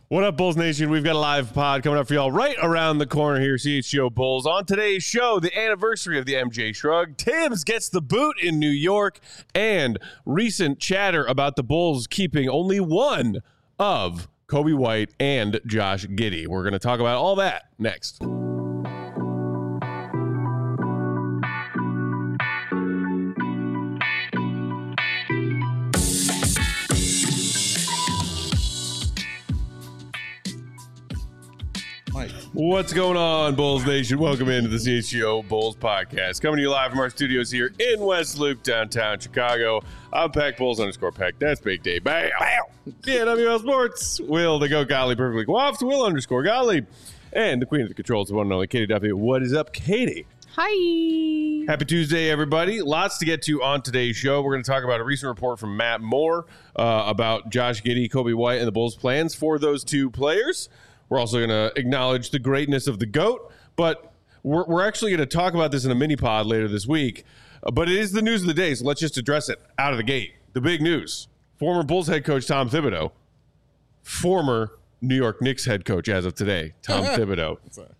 What up, Bulls Nation? We've got a live pod coming up for y'all right around the corner here, CHGO Bulls. On today's show, the anniversary of the MJ Shrug, Tibbs gets the boot in New York, and recent chatter about the Bulls keeping only one of Coby White and Josh Giddey. We're going to talk about all that next. What's going on, Bulls Nation? Welcome into the CHGO Bulls podcast. Coming to you live from our studios here in West Loop, downtown Chicago. I'm Pack Bulls _Pack. That's Big Day. Bam! Yeah, WL Sports. Will the Goat Golly perfectly coiffed. Will _Golly. And the queen of the controls, the one and only Katie Duffy. What is up, Katie? Hi. Happy Tuesday, everybody. Lots to get to on today's show. We're going to talk about a recent report from Matt Moore about Josh Giddey, Coby White, and the Bulls' plans for those two players. We're also going to acknowledge the greatness of the GOAT, but we're actually going to talk about this in a mini pod later this week. But it is the news of the day, so let's just address it out of the gate. The big news. Former Bulls head coach Tom Thibodeau, former New York Knicks head coach as of today, Tom Thibodeau.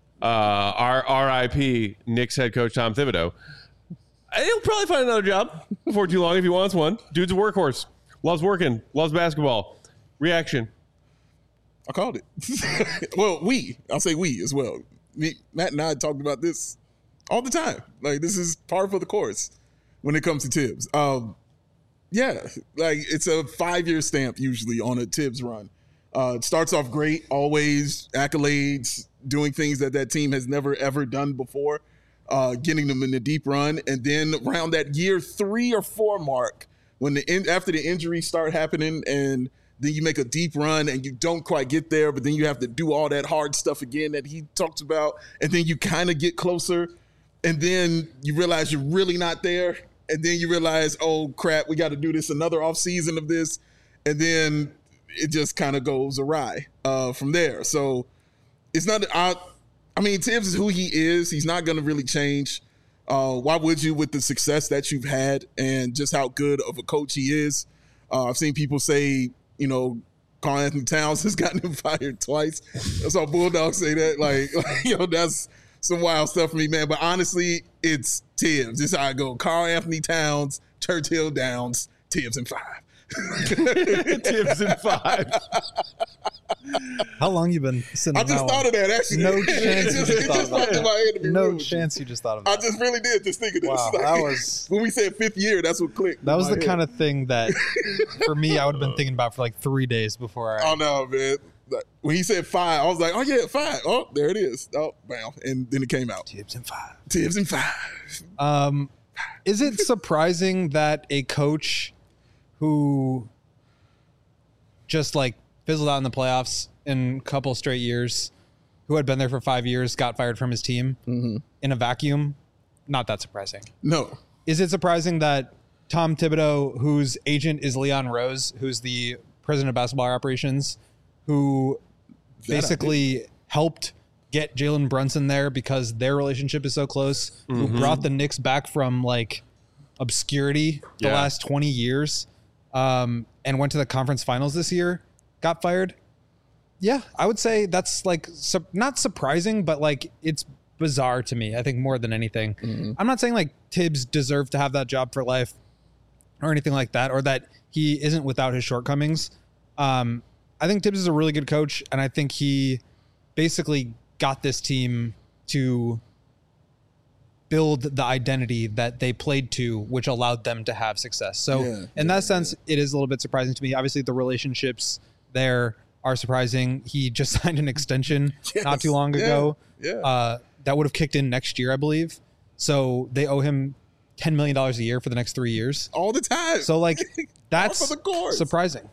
Our RIP Knicks head coach Tom Thibodeau. He'll probably find another job before too long if he wants one. Dude's a workhorse. Loves working. Loves basketball. Reaction. I called it. Well, I'll say we as well. Matt and I talked about this all the time. Like, this is par for the course when it comes to Tibbs. Yeah, like it's a 5-year stamp usually on a Tibbs run. It starts off great, always accolades, doing things that team has never, ever done before, getting them in a deep run. And then around that year 3 or 4 mark, when after the injuries start happening and then you make a deep run and you don't quite get there, but then you have to do all that hard stuff again that he talked about. And then you kind of get closer. And then you realize you're really not there. And then you realize, oh, crap, we got to do this another off season of this. And then it just kind of goes awry from there. So it's not – I mean, Tibbs is who he is. He's not going to really change. Why would you with the success that you've had and just how good of a coach he is? I've seen people say – you know, Karl-Anthony Towns has gotten him fired twice. I saw Bulldog say that. Like, you know, that's some wild stuff for me, man. But honestly, it's Tibbs. This is how I go. Karl-Anthony Towns, Churchill Downs, Tibbs in 5. Tibbs in 5. How long you been sitting? I just thought of that, actually. No chance you just thought of that. No chance you just thought of that. I just really did just think of this. Wow, like, that was when we said 5th year, that's what clicked. That was the kind of thing that, for me, I would have been thinking about for like 3 days before I. Oh no, man! Like, when he said 5, I was like, oh yeah, 5. Oh, there it is. Oh, bam! And then it came out. Tibbs in 5. Tibbs in 5. Is it surprising that a coach who just like fizzled out in the playoffs in a couple straight years, who had been there for 5 years, got fired from his team in a vacuum? Not that surprising. No. Is it surprising that Tom Thibodeau, whose agent is Leon Rose, who's the president of basketball operations, who basically helped get Jalen Brunson there because their relationship is so close, who brought the Knicks back from like obscurity the last 20 years, and went to the conference finals this year, got fired? Yeah, I would say that's like not surprising, but like it's bizarre to me, I think, more than anything. I'm not saying like Tibbs deserved to have that job for life or anything like that, or that he isn't without his shortcomings. I think Tibbs is a really good coach, and I think he basically got this team to build the identity that they played to, which allowed them to have success. So in that sense, it is a little bit surprising to me. Obviously, the relationships there are surprising. He just signed an extension not too long ago that would have kicked in next year, I believe. So they owe him $10 million a year for the next 3 years. All the time. So like that's surprising.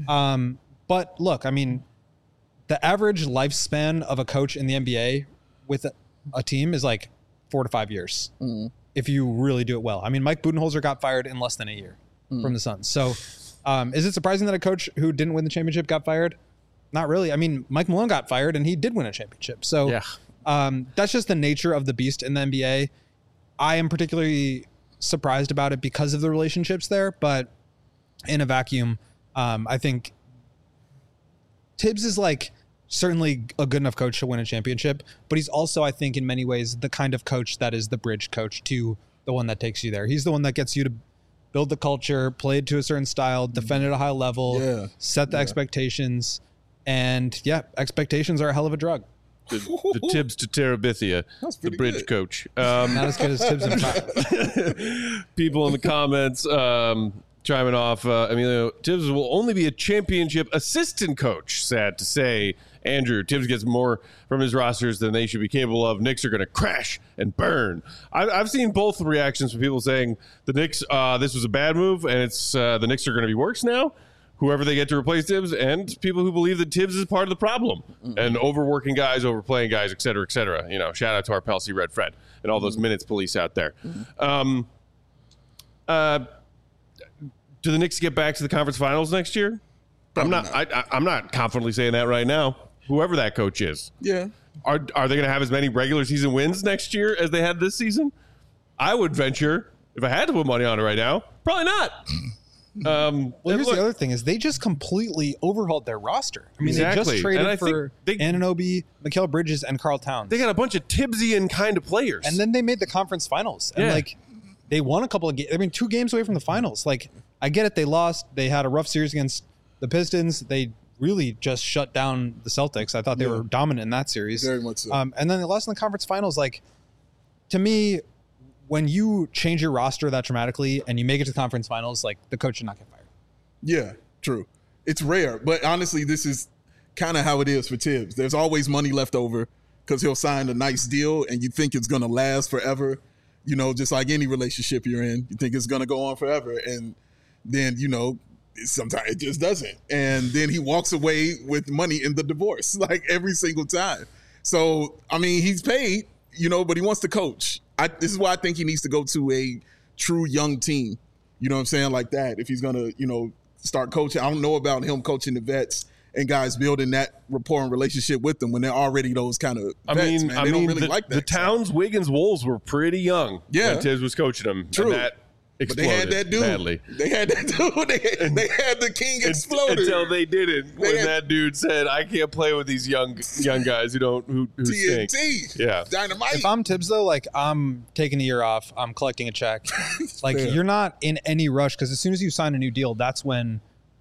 But look, I mean, the average lifespan of a coach in the NBA with a team is like 4 to 5 years if you really do it well. I mean, Mike Budenholzer got fired in less than a year from the Suns. So is it surprising that a coach who didn't win the championship got fired? Not really. I mean, Mike Malone got fired and he did win a championship. So that's just the nature of the beast in the NBA. I am particularly surprised about it because of the relationships there, but in a vacuum, I think Tibbs is like certainly a good enough coach to win a championship, but he's also, I think, in many ways, the kind of coach that is the bridge coach to the one that takes you there. He's the one that gets you to build the culture, play it to a certain style, defend at a high level, set the expectations. And expectations are a hell of a drug. The Tibbs to Terabithia, the bridge coach. Not as good as Tibbs and Pop. People in the comments chiming off. Emilio, Tibbs will only be a championship assistant coach. Sad to say. Andrew, Tibbs gets more from his rosters than they should be capable of. Knicks are going to crash and burn. I've seen both reactions from people saying the Knicks, this was a bad move, and it's the Knicks are going to be worse now. Whoever they get to replace Tibbs, and people who believe that Tibbs is part of the problem and overworking guys, overplaying guys, et cetera, et cetera. You know, shout out to our pal C Red Fred and all those minutes police out there. Do the Knicks get back to the conference finals next year? I'm not confidently saying that right now. Whoever that coach is, are they going to have as many regular season wins next year as they had this season? I would venture, if I had to put money on it right now, probably not. Here's the other thing is they just completely overhauled their roster. I mean, they just traded for Anunoby, Mikal Bridges, and Karl Towns. They got a bunch of Tibbsian kind of players. And then they made the conference finals. And they won a couple of games. I mean, 2 games away from the finals. Like, I get it. They lost. They had a rough series against the Pistons. They really just shut down the Celtics. I thought they were dominant in that series. Very much so. And then they lost in the conference finals. Like, to me, when you change your roster that dramatically and you make it to the conference finals, like, the coach should not get fired. Yeah, true. It's rare, but honestly, this is kind of how it is for Tibbs. There's always money left over because he'll sign a nice deal and you think it's going to last forever. You know, just like any relationship you're in, you think it's going to go on forever. And then, you know, sometimes it just doesn't. And then he walks away with money in the divorce, like every single time. So, I mean, he's paid, you know, but he wants to coach. This is why I think he needs to go to a true young team. You know what I'm saying? Like that. If he's going to, you know, start coaching. I don't know about him coaching the vets and guys building that rapport and relationship with them when they're already those kind of vets, man. They don't really like that. The Towns, Wiggins, Wolves were pretty young when Tibbs was coaching them. True. And that exploded. But they had that dude. Badly. They had that dude. They had the king exploded. Until they didn't. When that dude said, I can't play with these young guys who TNT. stink. Yeah. Dynamite. If I'm Tibbs, though, like, I'm taking a year off. I'm collecting a check. Like, you're not in any rush because as soon as you sign a new deal, that's when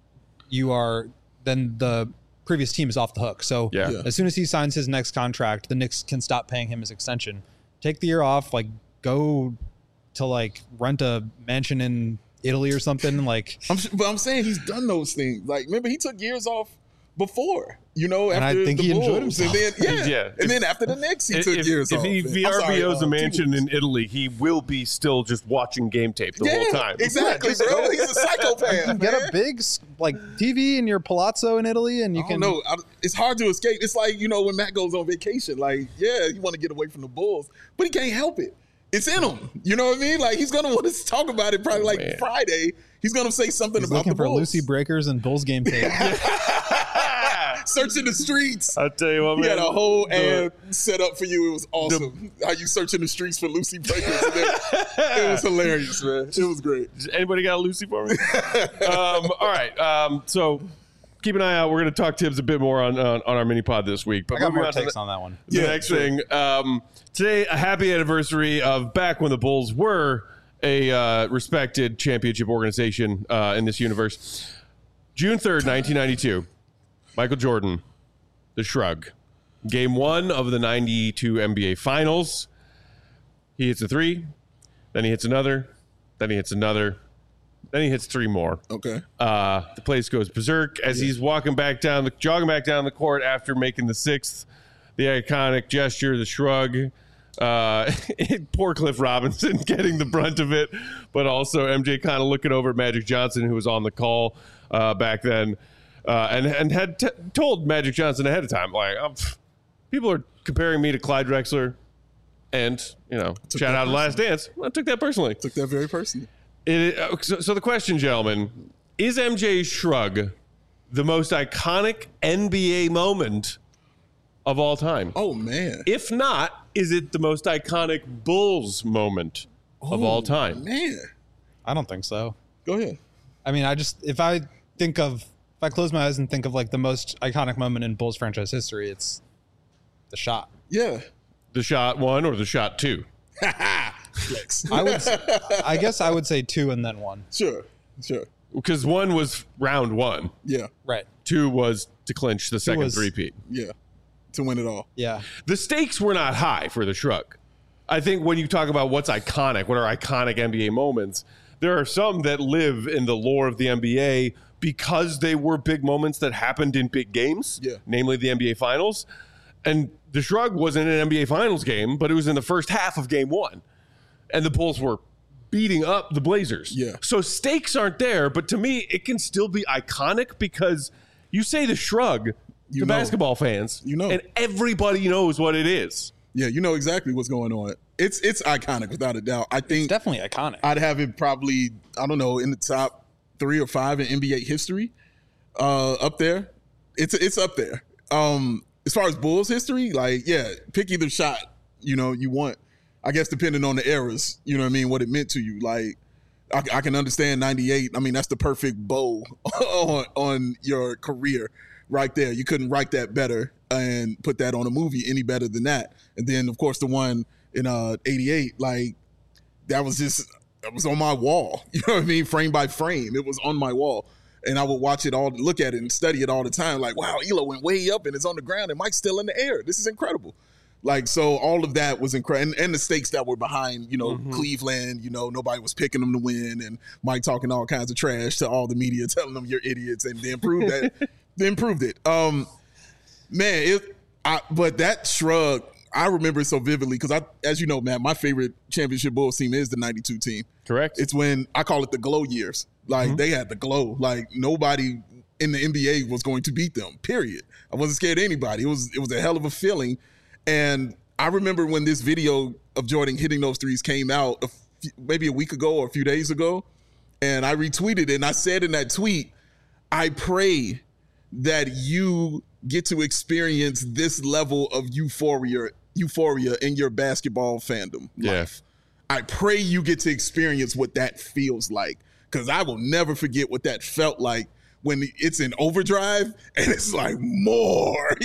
then the previous team is off the hook. So as soon as he signs his next contract, the Knicks can stop paying him his extension. Take the year off, like, go to, like, rent a mansion in Italy or something. Like, but I'm saying he's done those things. Like, remember, he took years off before, you know, and after I think the he Bulls. enjoyed himself. And then, and then after the Knicks, he took years off. If he VRBOs a mansion in Italy, he will be still just watching game tape the whole time. Exactly, bro. He's a psychopath. You get a big, like, TV in your palazzo in Italy, and you can. No, it's hard to escape. It's like, you know, when Matt goes on vacation, like, you want to get away from the Bulls, but he can't help it. It's in him. You know what I mean? Like, he's going to want to talk about it probably Friday. He's going to say something about the Bulls. Looking for Lucy Breakers and Bulls game tape. Searching the streets. I'll tell you what, man. He had a whole ad set up for you. It was awesome. How you searching the streets for Lucy Breakers. It was hilarious, man. It was great. Does anybody got a Lucy for me? All right. So keep an eye out. We're going to talk Tibbs a bit more on our mini pod this week. But I got more takes on that one. The next thing. Today, a happy anniversary of back when the Bulls were a respected championship organization in this universe. June 3rd, 1992. Michael Jordan, the Shrug. Game 1 of the 92 NBA Finals. He hits a 3, then he hits another, then he hits another, then he hits 3 more. Okay. The place goes berserk as he's jogging back down the court after making the 6th. The iconic gesture, the shrug. Poor Cliff Robinson getting the brunt of it, but also MJ kind of looking over at Magic Johnson, who was on the call back then. And had told Magic Johnson ahead of time, like, people are comparing me to Clyde Drexler and, you know, shout out to Last Dance. I took that personally. Took that very personally. So the question, gentlemen, is MJ's shrug the most iconic NBA moment of all time? Oh, man. If not, is it the most iconic Bulls moment of all time? Man. I don't think so. Go ahead. I mean, if I If I close my eyes and think of like the most iconic moment in Bulls franchise history, it's the shot. Yeah. The shot 1 or the shot 2? Flex. I guess I would say 2 and then 1. Sure. Because 1 was round 1. Yeah. Right. 2 was to clinch the second was- three-peat. Yeah. To win it all. Yeah. The stakes were not high for the Shrug. I think when you talk about what's iconic, what are iconic NBA moments, there are some that live in the lore of the NBA because they were big moments that happened in big games, namely the NBA Finals. And the Shrug wasn't an NBA Finals game, but it was in the first half of Game 1. And the Bulls were beating up the Blazers. Yeah. So stakes aren't there, but to me, it can still be iconic because you say the Shrug to know. basketball fans, and everybody knows what it is. Yeah, you know exactly what's going on. It's iconic without a doubt. I think It's definitely iconic. I'd have it probably, I don't know, in the top 3 or 5 in NBA history. Up there. It's up there. As far as Bulls history, like, yeah, pick either shot, you want. I guess depending on the eras, you know what I mean, what it meant to you. Like, I can understand 98. I mean, that's the perfect bow on your career right there. You couldn't write that better and put that on a movie any better than that. And then, of course, the one in 88, like, that was on my wall. You know what I mean? Frame by frame. It was on my wall. And I would watch it all, look at it and study it all the time. Like, wow, Elo went way up and it's on the ground and Mike's still in the air. This is incredible. Like, so all of that was incredible. And the stakes that were behind, Cleveland, nobody was picking them to win. And Mike talking all kinds of trash to all the media, telling them you're idiots. And they improved that. They improved it. But that Shrug, I remember it so vividly because as you know, man, my favorite championship Bulls team is the 92 team. Correct. It's when I call it the glow years. Like, they had the glow. Like, nobody in the NBA was going to beat them, period. I wasn't scared of anybody. It was a hell of a feeling. And I remember when this video of Jordan hitting those threes came out maybe a week ago or a few days ago, and I retweeted it, and I said in that tweet, I pray that you get to experience this level of euphoria in your basketball fandom life. I pray you get to experience what that feels like, because I will never forget what that felt like when it's in overdrive and it's like more,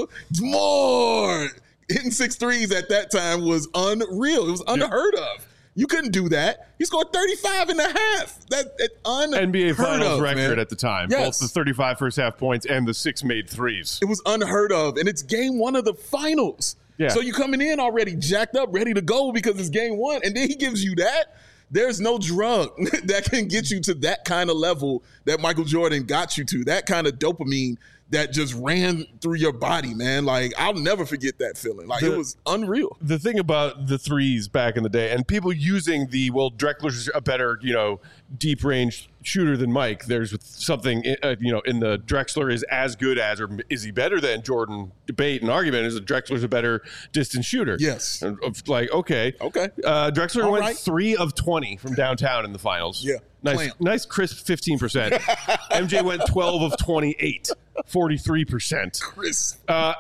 more. Hitting 6 threes at that time was unreal. It was unheard of. You couldn't do that. He scored 35 and a half. That's unheard NBA Finals of, record man. at the time. Yes. Both the 35 first half points and the 6 made threes. It was unheard of. And it's game 1 of the finals. Yeah. So you're coming in already jacked up, ready to go because it's game 1. And then he gives you that. There's no drug that can get you to that kind of level that Michael Jordan got you to, that kind of dopamine that just ran through your body, man. Like, I'll never forget that feeling. Like, it was unreal. The thing about the threes back in the day, and people using Drexler's a better, deep range shooter than Mike. There's something, in the Drexler is as good as, or is he better than Jordan debate and argument is that Drexler's a better distance shooter. Yes. And okay. Drexler All went right. 3 of 20 from downtown in the finals. Yeah. Nice crisp 15%. MJ went 12 of 28, 43%. Chris.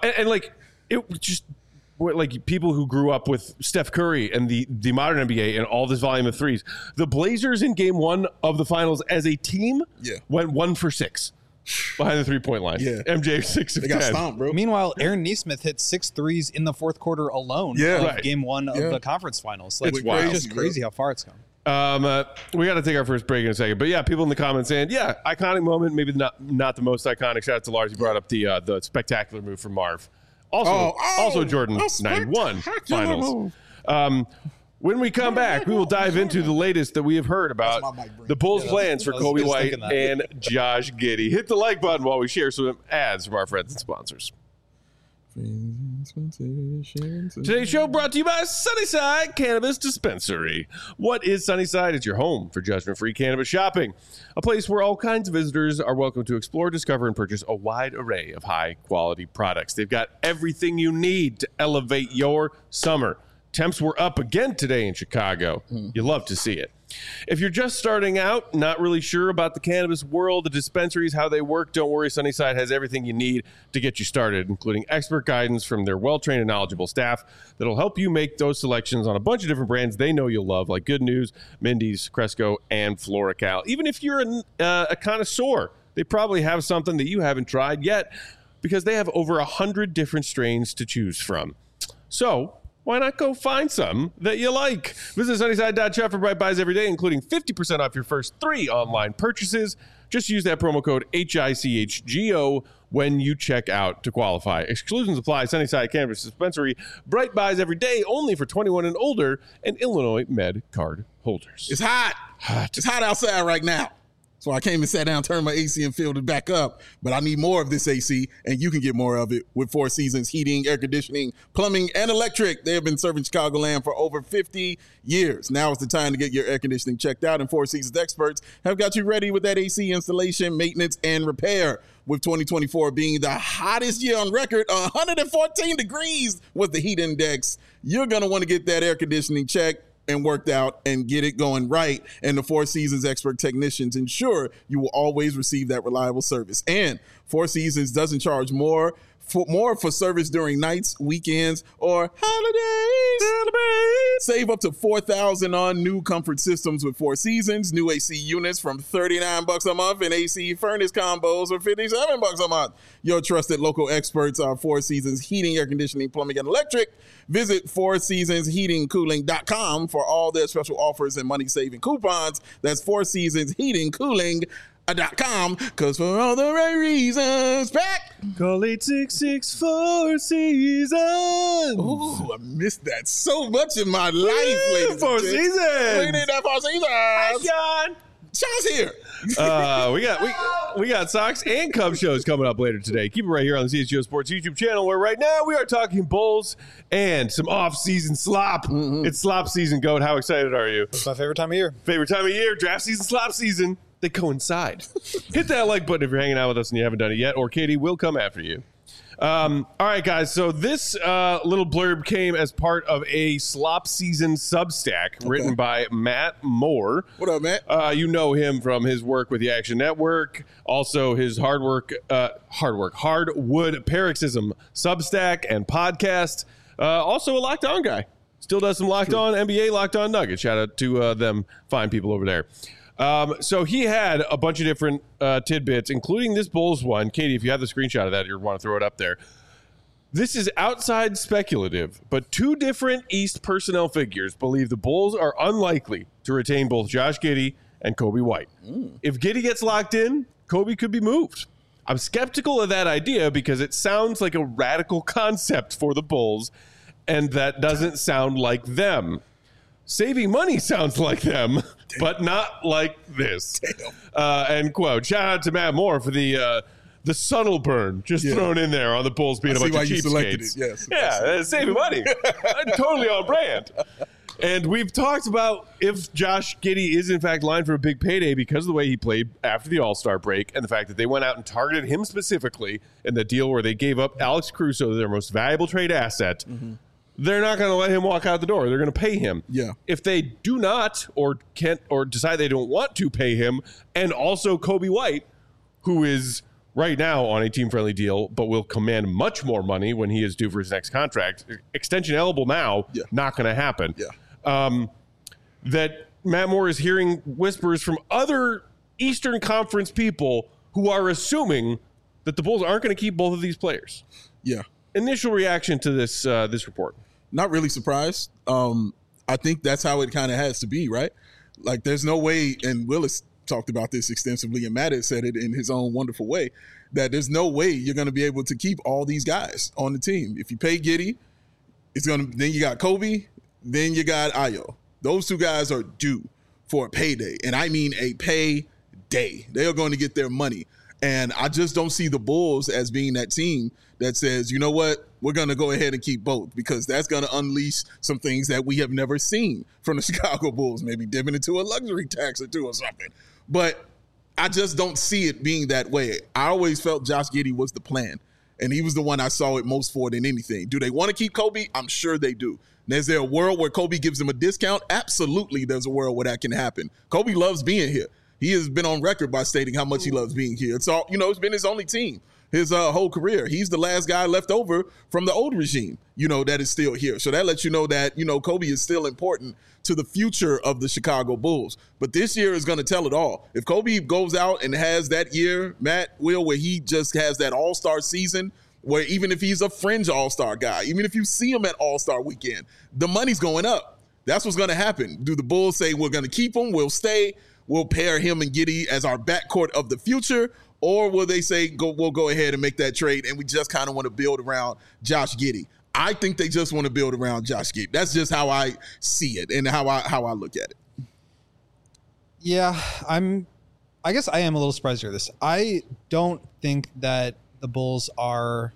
It just like people who grew up with Steph Curry and the modern NBA and all this volume of threes. The Blazers in game 1 of the finals as a team went 1 for 6 behind the 3-point line. Yeah. MJ 6 of They 10. got stomped, bro. Meanwhile, Aaron Nesmith hit 6 threes in the fourth quarter alone of Right. game 1 of the conference finals. Like, It's wild. just crazy how far it's come. We got to take our first break in a second, but yeah, people in the comments saying, yeah, iconic moment, maybe not the most iconic. Shout out to Lars. He brought up the spectacular move from Marv. Also Jordan 91 finals. When we come back, we will dive into the latest that we have heard about the Bulls' plans for I was Kobe just White thinking that. and Josh Giddey. Hit the like button while we share some ads from our friends and sponsors. Today's show brought to you by Sunnyside Cannabis Dispensary. What is Sunnyside? It's your home for judgment-free cannabis shopping. A place where all kinds of visitors are welcome to explore, discover, and purchase a wide array of high-quality products. They've got everything you need to elevate your summer. Temps were up again today in Chicago. You love to see it. If you're just starting out, not really sure about the cannabis world, the dispensaries, how they work, don't worry. Sunnyside has everything you need to get you started, including expert guidance from their well-trained and knowledgeable staff that'll help you make those selections on a bunch of different brands they know you'll love, like Good News, Mindy's, Cresco, and Floracal. Even if you're a connoisseur, they probably have something that you haven't tried yet because they have over 100 different strains to choose from. So why not go find some that you like? Visit Sunnyside.shop for Bright Buys every day, including 50% off your first 3 online purchases. Just use that promo code HICHGO when you check out to qualify. Exclusions apply. Sunnyside Cannabis Dispensary. Bright Buys every day, only for 21 and older, and Illinois Med card holders. It's hot. It's hot outside right now. So I came and sat down, turned my AC and filled it back up. But I need more of this AC, and you can get more of it with Four Seasons Heating, Air Conditioning, Plumbing, and Electric. They have been serving Chicagoland for over 50 years. Now is the time to get your air conditioning checked out, and Four Seasons experts have got you ready with that AC installation, maintenance, and repair. With 2024 being the hottest year on record, 114 degrees was the heat index. You're going to want to get that air conditioning checked and worked out and get it going right. And the Four Seasons expert technicians ensure you will always receive that reliable service. And Four Seasons doesn't charge more for service during nights, weekends, or holidays. Save up to $4,000 on new comfort systems with Four Seasons. New AC units from $39 a month and AC furnace combos for $57 a month. Your trusted local experts are Four Seasons Heating, Air Conditioning, Plumbing, and Electric. Visit fourseasonsheatingcooling.com for all their special offers and money-saving coupons. That's Four Seasons Heating Cooling.com, because for all the right reasons, back. Call 866 Four Seasons. Ooh, I missed that so much in my life, ladies. Four Seasons. We need that Four Seasons. Hi, Sean. Sean's here. We got Sox and Cubs shows coming up later today. Keep it right here on the CHGO Sports YouTube channel, where right now we are talking Bulls and some off-season slop. It's slop season, Goat. How excited are you? It's my favorite time of year. Favorite time of year, draft season, slop season. They coincide. Hit that like button if you're hanging out with us and you haven't done it yet, or Katie will come after you. All right, guys. So this little blurb came as part of a slop season Substack written by Matt Moore. What up, Matt? You know him from his work with the Action Network, also his Hardwood Paroxysm Substack and podcast. Also a Locked On guy. Still does some Locked On NBA, Locked On Nuggets. Shout out to them fine people over there. So he had a bunch of different tidbits, including this Bulls one. Katie, if you have the screenshot of that, you want to throw it up there. This is outside speculative, but 2 different East personnel figures believe the Bulls are unlikely to retain both Josh Giddey and Coby White. If Giddey gets locked in, Coby could be moved. I'm skeptical of that idea because it sounds like a radical concept for the Bulls, and that doesn't sound like them. Saving money sounds like them, but not like this. End quote. Shout out to Matt Moore for the subtle burn just thrown in there on the Bulls being a bunch of cheapskates. Yes. Yeah, saving money. Totally on brand. And we've talked about if Josh Giddey is in fact lined for a big payday because of the way he played after the All-Star break and the fact that they went out and targeted him specifically in the deal where they gave up Alex Caruso, their most valuable trade asset. They're not going to let him walk out the door. They're going to pay him. Yeah. If they do not or can't or decide they don't want to pay him, and also Coby White, who is right now on a team-friendly deal but will command much more money when he is due for his next contract, extension eligible now, not going to happen. That Matt Moore is hearing whispers from other Eastern Conference people who are assuming that the Bulls aren't going to keep both of these players. Yeah. Initial reaction to this report? Not really surprised. I think that's how it kind of has to be, right? Like, there's no way, and Willis talked about this extensively, and Matt has said it in his own wonderful way, that there's no way you're going to be able to keep all these guys on the team. If you pay Giddey, then you got Coby, then you got Ayo. Those 2 guys are due for a payday, and I mean a payday. They are going to get their money. And I just don't see the Bulls as being that team that says, you know what, we're going to go ahead and keep both, because that's going to unleash some things that we have never seen from the Chicago Bulls, maybe dipping into a luxury tax or 2 or something. But I just don't see it being that way. I always felt Josh Giddey was the plan, and he was the one I saw it most for than anything. Do they want to keep Coby? I'm sure they do. And is there a world where Coby gives him a discount? Absolutely, there's a world where that can happen. Coby loves being here. He has been on record by stating how much he loves being here. It's all, it's been his only team. his whole career. He's the last guy left over from the old regime, that is still here. So that lets you know that, Kobe is still important to the future of the Chicago Bulls. But this year is going to tell it all. If Kobe goes out and has that year, where he just has that all-star season, where even if he's a fringe all-star guy, even if you see him at all-star weekend, the money's going up. That's what's going to happen. Do the Bulls say, we're going to keep him, we'll stay, we'll pair him and Giddey as our backcourt of the future? Or will they say, we'll go ahead and make that trade and we just kind of want to build around Josh Giddey? I think they just want to build around Josh Giddey. That's just how I see it and how I look at it. Yeah, I guess I am a little surprised to hear this. I don't think that the Bulls are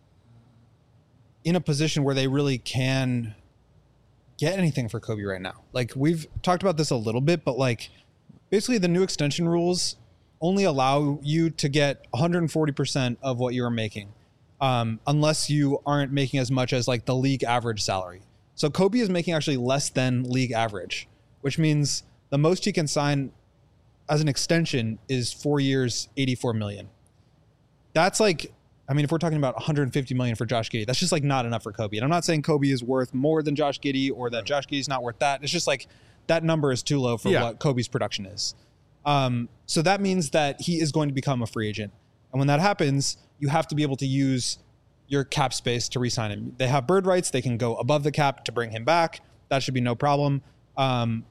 in a position where they really can get anything for Kobe right now. Like, we've talked about this a little bit, but like basically the new extension rules only allow you to get 140% of what you are making. Unless you aren't making as much as like the league average salary. So Kobe is making actually less than league average, which means the most he can sign as an extension is 4 years, $84 million. That's like, I mean, if we're talking about $150 million for Josh Giddey, that's just like not enough for Kobe. And I'm not saying Kobe is worth more than Josh Giddey or that Josh Giddey's not worth that. It's just like that number is too low for what Kobe's production is. So that means that he is going to become a free agent. And when that happens, you have to be able to use your cap space to re-sign him. They have bird rights. They can go above the cap to bring him back. That should be no problem. And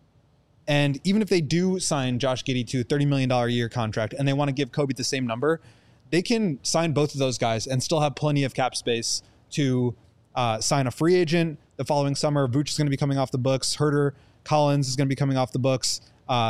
even if they do sign Josh Giddey to a $30 million a year contract and they want to give Kobe the same number, they can sign both of those guys and still have plenty of cap space to sign a free agent the following summer. Vooch is going to be coming off the books. Herter, Collins is going to be coming off the books.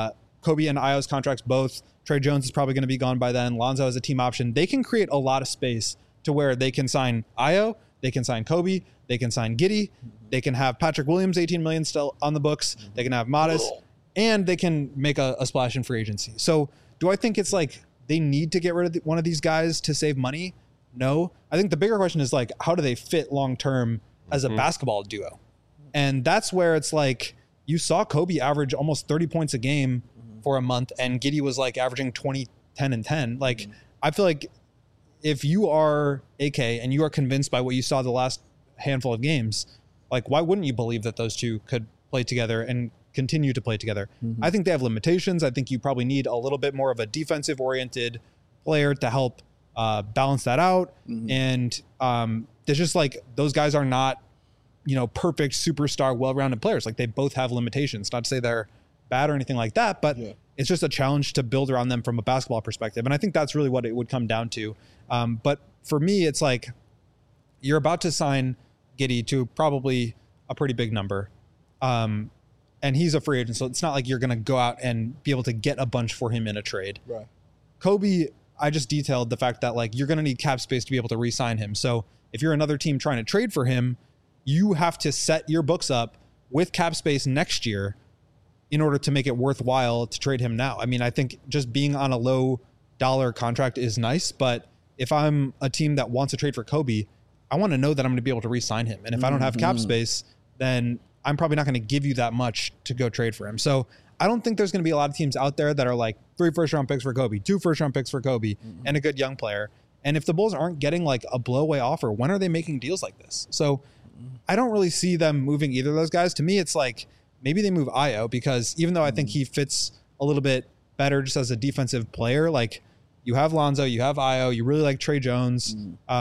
Kobe and Ayo's contracts both. Trey Jones is probably going to be gone by then. Lonzo has a team option. They can create a lot of space to where they can sign Ayo, they can sign Kobe, they can sign Giddey, they can have Patrick Williams, $18 million still on the books, they can have Modest, and they can make a splash in free agency. So do I think it's like they need to get rid of one of these guys to save money? No. I think the bigger question is like, how do they fit long-term as a basketball duo? And that's where it's like, you saw Kobe average almost 30 points a game for a month, and Giddey was like averaging 20, 10, and 10. Like, I feel like if you are AK and you are convinced by what you saw the last handful of games, like, why wouldn't you believe that those two could play together and continue to play together? I think they have limitations. I think you probably need a little bit more of a defensive oriented player to help balance that out. And there's just like, those guys are not, perfect superstar, well-rounded players. Like, they both have limitations. Not to say they're bad or anything like that, but it's just a challenge to build around them from a basketball perspective. And I think that's really what it would come down to. But for me, it's like, you're about to sign Giddey to probably a pretty big number. And he's a free agent, so it's not like you're going to go out and be able to get a bunch for him in a trade. Right. Kobe, I just detailed the fact that like you're going to need cap space to be able to re-sign him. So if you're another team trying to trade for him, you have to set your books up with cap space next year in order to make it worthwhile to trade him now. I mean, I think just being on a low dollar contract is nice, but if I'm a team that wants to trade for Kobe, I want to know that I'm going to be able to re-sign him. And if I don't have cap space, then I'm probably not going to give you that much to go trade for him. So I don't think there's going to be a lot of teams out there that are like 3 first-round picks for Kobe, 2 first-round picks for Kobe, and a good young player. And if the Bulls aren't getting like a blow-away offer, when are they making deals like this? So I don't really see them moving either of those guys. To me, it's like, maybe they move Ayo, because even though I think he fits a little bit better just as a defensive player, like, you have Lonzo, you have Ayo, you really like Trey Jones.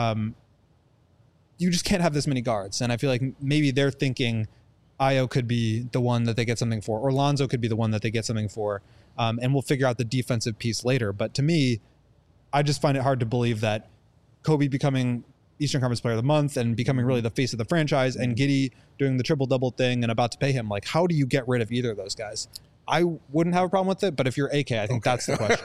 You just can't have this many guards. And I feel like maybe they're thinking Ayo could be the one that they get something for, or Lonzo could be the one that they get something for. And we'll figure out the defensive piece later. But to me, I just find it hard to believe that Kobe becoming Eastern Conference Player of the Month and becoming really the face of the franchise, and Giddey doing the triple-double thing and about to pay him. Like, how do you get rid of either of those guys? I wouldn't have a problem with it, but if you're AK, I think that's the question.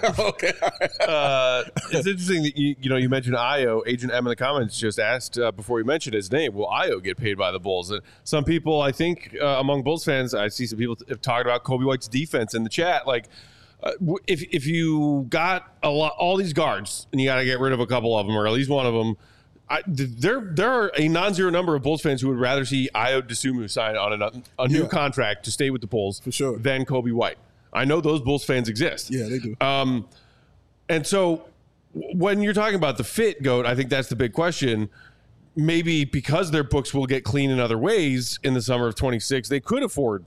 It's interesting that you mentioned Ayo. Agent M in the comments just asked before you mentioned his name, will Ayo get paid by the Bulls? And some people, I think, among Bulls fans, I see some people have talked about Kobe White's defense in the chat. Like, if you got all these guards and you got to get rid of a couple of them, or at least one of them, there are a non-zero number of Bulls fans who would rather see Ayo Dosunmu sign on a new contract to stay with the Bulls for sure than Kobe White. I know those Bulls fans exist. Yeah, they do. And so when you're talking about the fit, Goat, I think that's the big question. Maybe because their books will get clean in other ways in the summer of 26, they could afford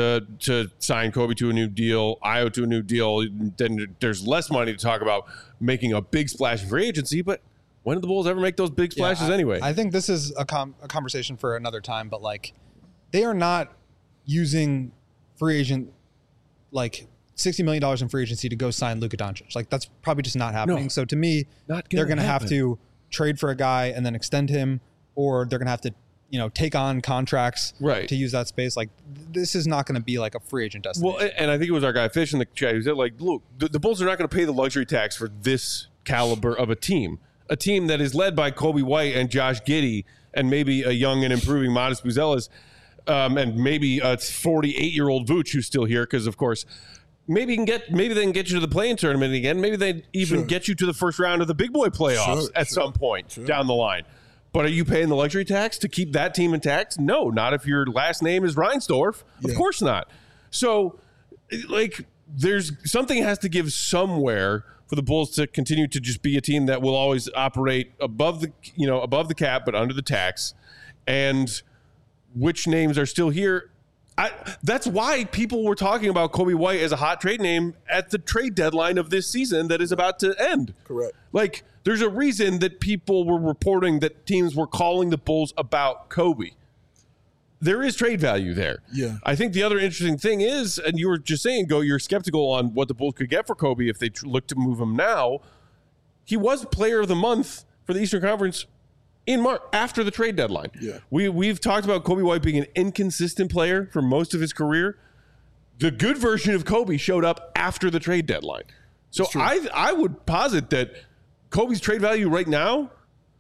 to sign Kobe to a new deal, Ayo to a new deal. Then there's less money to talk about making a big splash in free agency. But when did the Bulls ever make those big splashes anyway? I think this is a conversation for another time. But like, they are not using free agent like $60 million in free agency to go sign Luka Doncic. Like, that's probably just not happening. No, so to me, they're going to have to trade for a guy and then extend him, or they're going to have to, take on contracts to use that space. Like, this is not going to be like a free agent destination. Well, and I think it was our guy Fish in the chat who said, like, look, the Bulls are not going to pay the luxury tax for this caliber of a team that is led by Kobe White and Josh Giddey and maybe a young and improving Modest Buzelis, and maybe a 48-year-old Vooch who's still here because, of course, maybe they can get you to the play-in tournament again. Maybe they even get you to the first round of the big boy playoffs at some point down the line. But are you paying the luxury tax to keep that team intact? No, not if your last name is Reinsdorf. Of course not. So, like, there's something has to give somewhere for the Bulls to continue to just be a team that will always operate above the cap but under the tax. And which names are still here? That's why people were talking about Kobe White as a hot trade name at the trade deadline of this season that is about to end. Correct. Like, there's a reason that people were reporting that teams were calling the Bulls about Kobe. There is trade value there. Yeah. I think the other interesting thing is, and you were just saying, you're skeptical on what the Bulls could get for Kobe if they look to move him now. He was player of the month for the Eastern Conference in March, after the trade deadline. Yeah. We've talked about Kobe White being an inconsistent player for most of his career. The good version of Kobe showed up after the trade deadline. So I would posit that Kobe's trade value right now,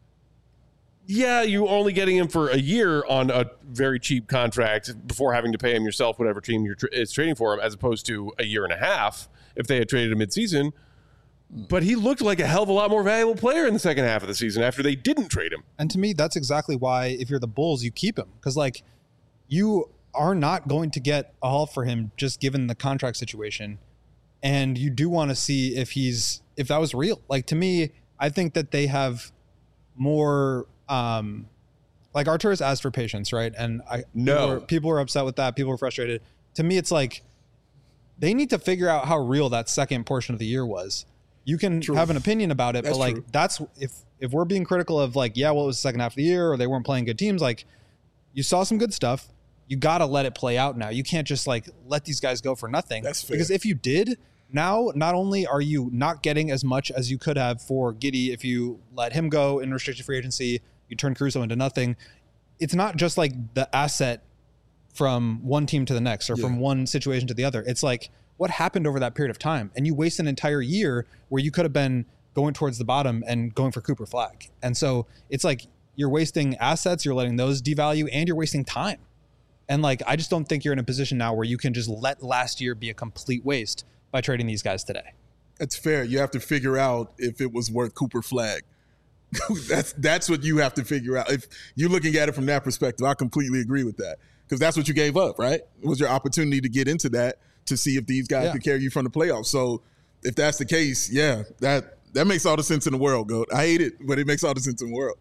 you're only getting him for a year on a very cheap contract before having to pay him yourself, whatever team is trading for him, as opposed to a year and a half if they had traded him midseason. But he looked like a hell of a lot more valuable player in the second half of the season after they didn't trade him. And to me, that's exactly why, if you're the Bulls, you keep him. Because, like, you are not going to get a haul for him just given the contract situation. And you do want to see if that was real. Like, to me, I think that they have more, like, Arturas asked for patience, right? And people were upset with that. People were frustrated. To me, it's like, they need to figure out how real that second portion of the year was. You can have an opinion about it, but like, that's if we're being critical of like, it was the second half of the year or they weren't playing good teams. Like, you saw some good stuff. You got to let it play out now. You can't just like let these guys go for nothing. That's fair. Because if you did, now not only are you not getting as much as you could have for Giddey if you let him go in restricted free agency, you turn Caruso into nothing. It's not just like the asset from one team to the next or from one situation to the other. It's like, what happened over that period of time? And you waste an entire year where you could have been going towards the bottom and going for Cooper Flag. And so it's like, you're wasting assets, you're letting those devalue, and you're wasting time. And like, I just don't think you're in a position now where you can just let last year be a complete waste by trading these guys today. That's fair. You have to figure out if it was worth Cooper Flag. That's what you have to figure out. If you're looking at it from that perspective, I completely agree with that. Because that's what you gave up, right? It was your opportunity to get into that, to see if these guys could carry you from the playoffs. So if that's the case, that makes all the sense in the world, Goat. I hate it, but it makes all the sense in the world.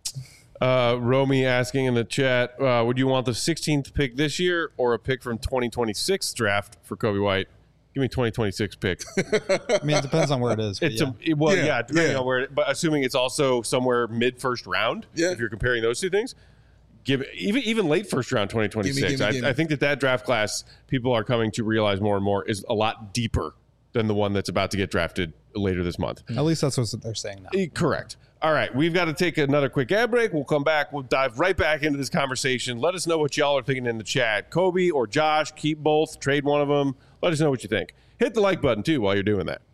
Romy asking in the chat, would you want the 16th pick this year or a pick from 2026 draft for Kobe White? Give me 2026 pick. I mean, it depends on where it is. Depending on where but assuming it's also somewhere mid-first round, if you're comparing those two things. Give even late first round 2026. I think that draft class, people are coming to realize more and more, is a lot deeper than the one that's about to get drafted later this month. At least that's what they're saying now. Correct. All right, we've got to take another quick ad break. We'll come back. We'll dive right back into this conversation. Let us know what y'all are thinking in the chat. Kobe or Josh, keep both, trade one of them. Let us know what you think. Hit the like button, too, while you're doing that.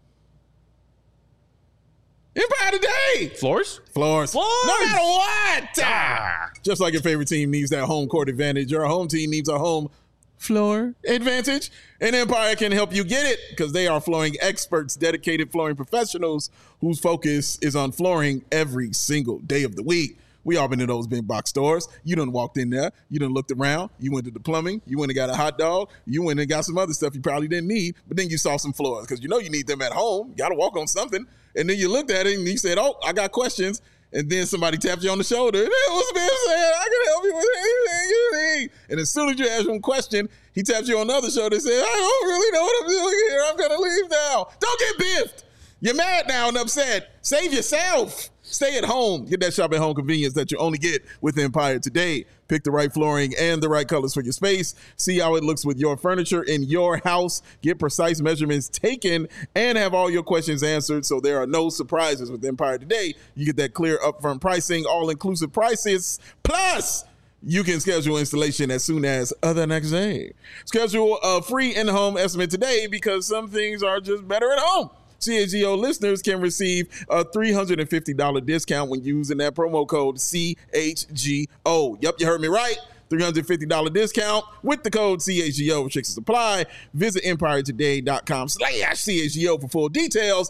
Empire today. Floors. No matter what. Just like your favorite team needs that home court advantage, your home team needs a home floor advantage. And Empire can help you get it because they are flooring experts, dedicated flooring professionals whose focus is on flooring every single day of the week. We all been to those big box stores. You done walked in there. You done looked around. You went to the plumbing. You went and got a hot dog. You went and got some other stuff you probably didn't need. But then you saw some floors because you know you need them at home. You got to walk on something. And then you looked at it and you said, oh, I got questions. And then somebody tapped you on the shoulder. And it was Biff saying, I can help you with anything you need. And as soon as you ask him a question, he taps you on the other shoulder and says, I don't really know what I'm doing here. I'm going to leave now. Don't get biffed. You're mad now and upset. Save yourself. Stay at home. Get that shop at home convenience that you only get with Empire today. Pick the right flooring and the right colors for your space. See how it looks with your furniture in your house. Get precise measurements taken and have all your questions answered so there are no surprises with Empire today. You get that clear upfront pricing, all-inclusive prices. Plus, you can schedule installation as soon as the next day. Schedule a free in-home estimate today because some things are just better at home. CHGO listeners can receive a $350 discount when using that promo code CHGO. Yep, you heard me right. $350 discount with the code CHGO. Restrictions apply. Visit empiretoday.com/CHGO for full details.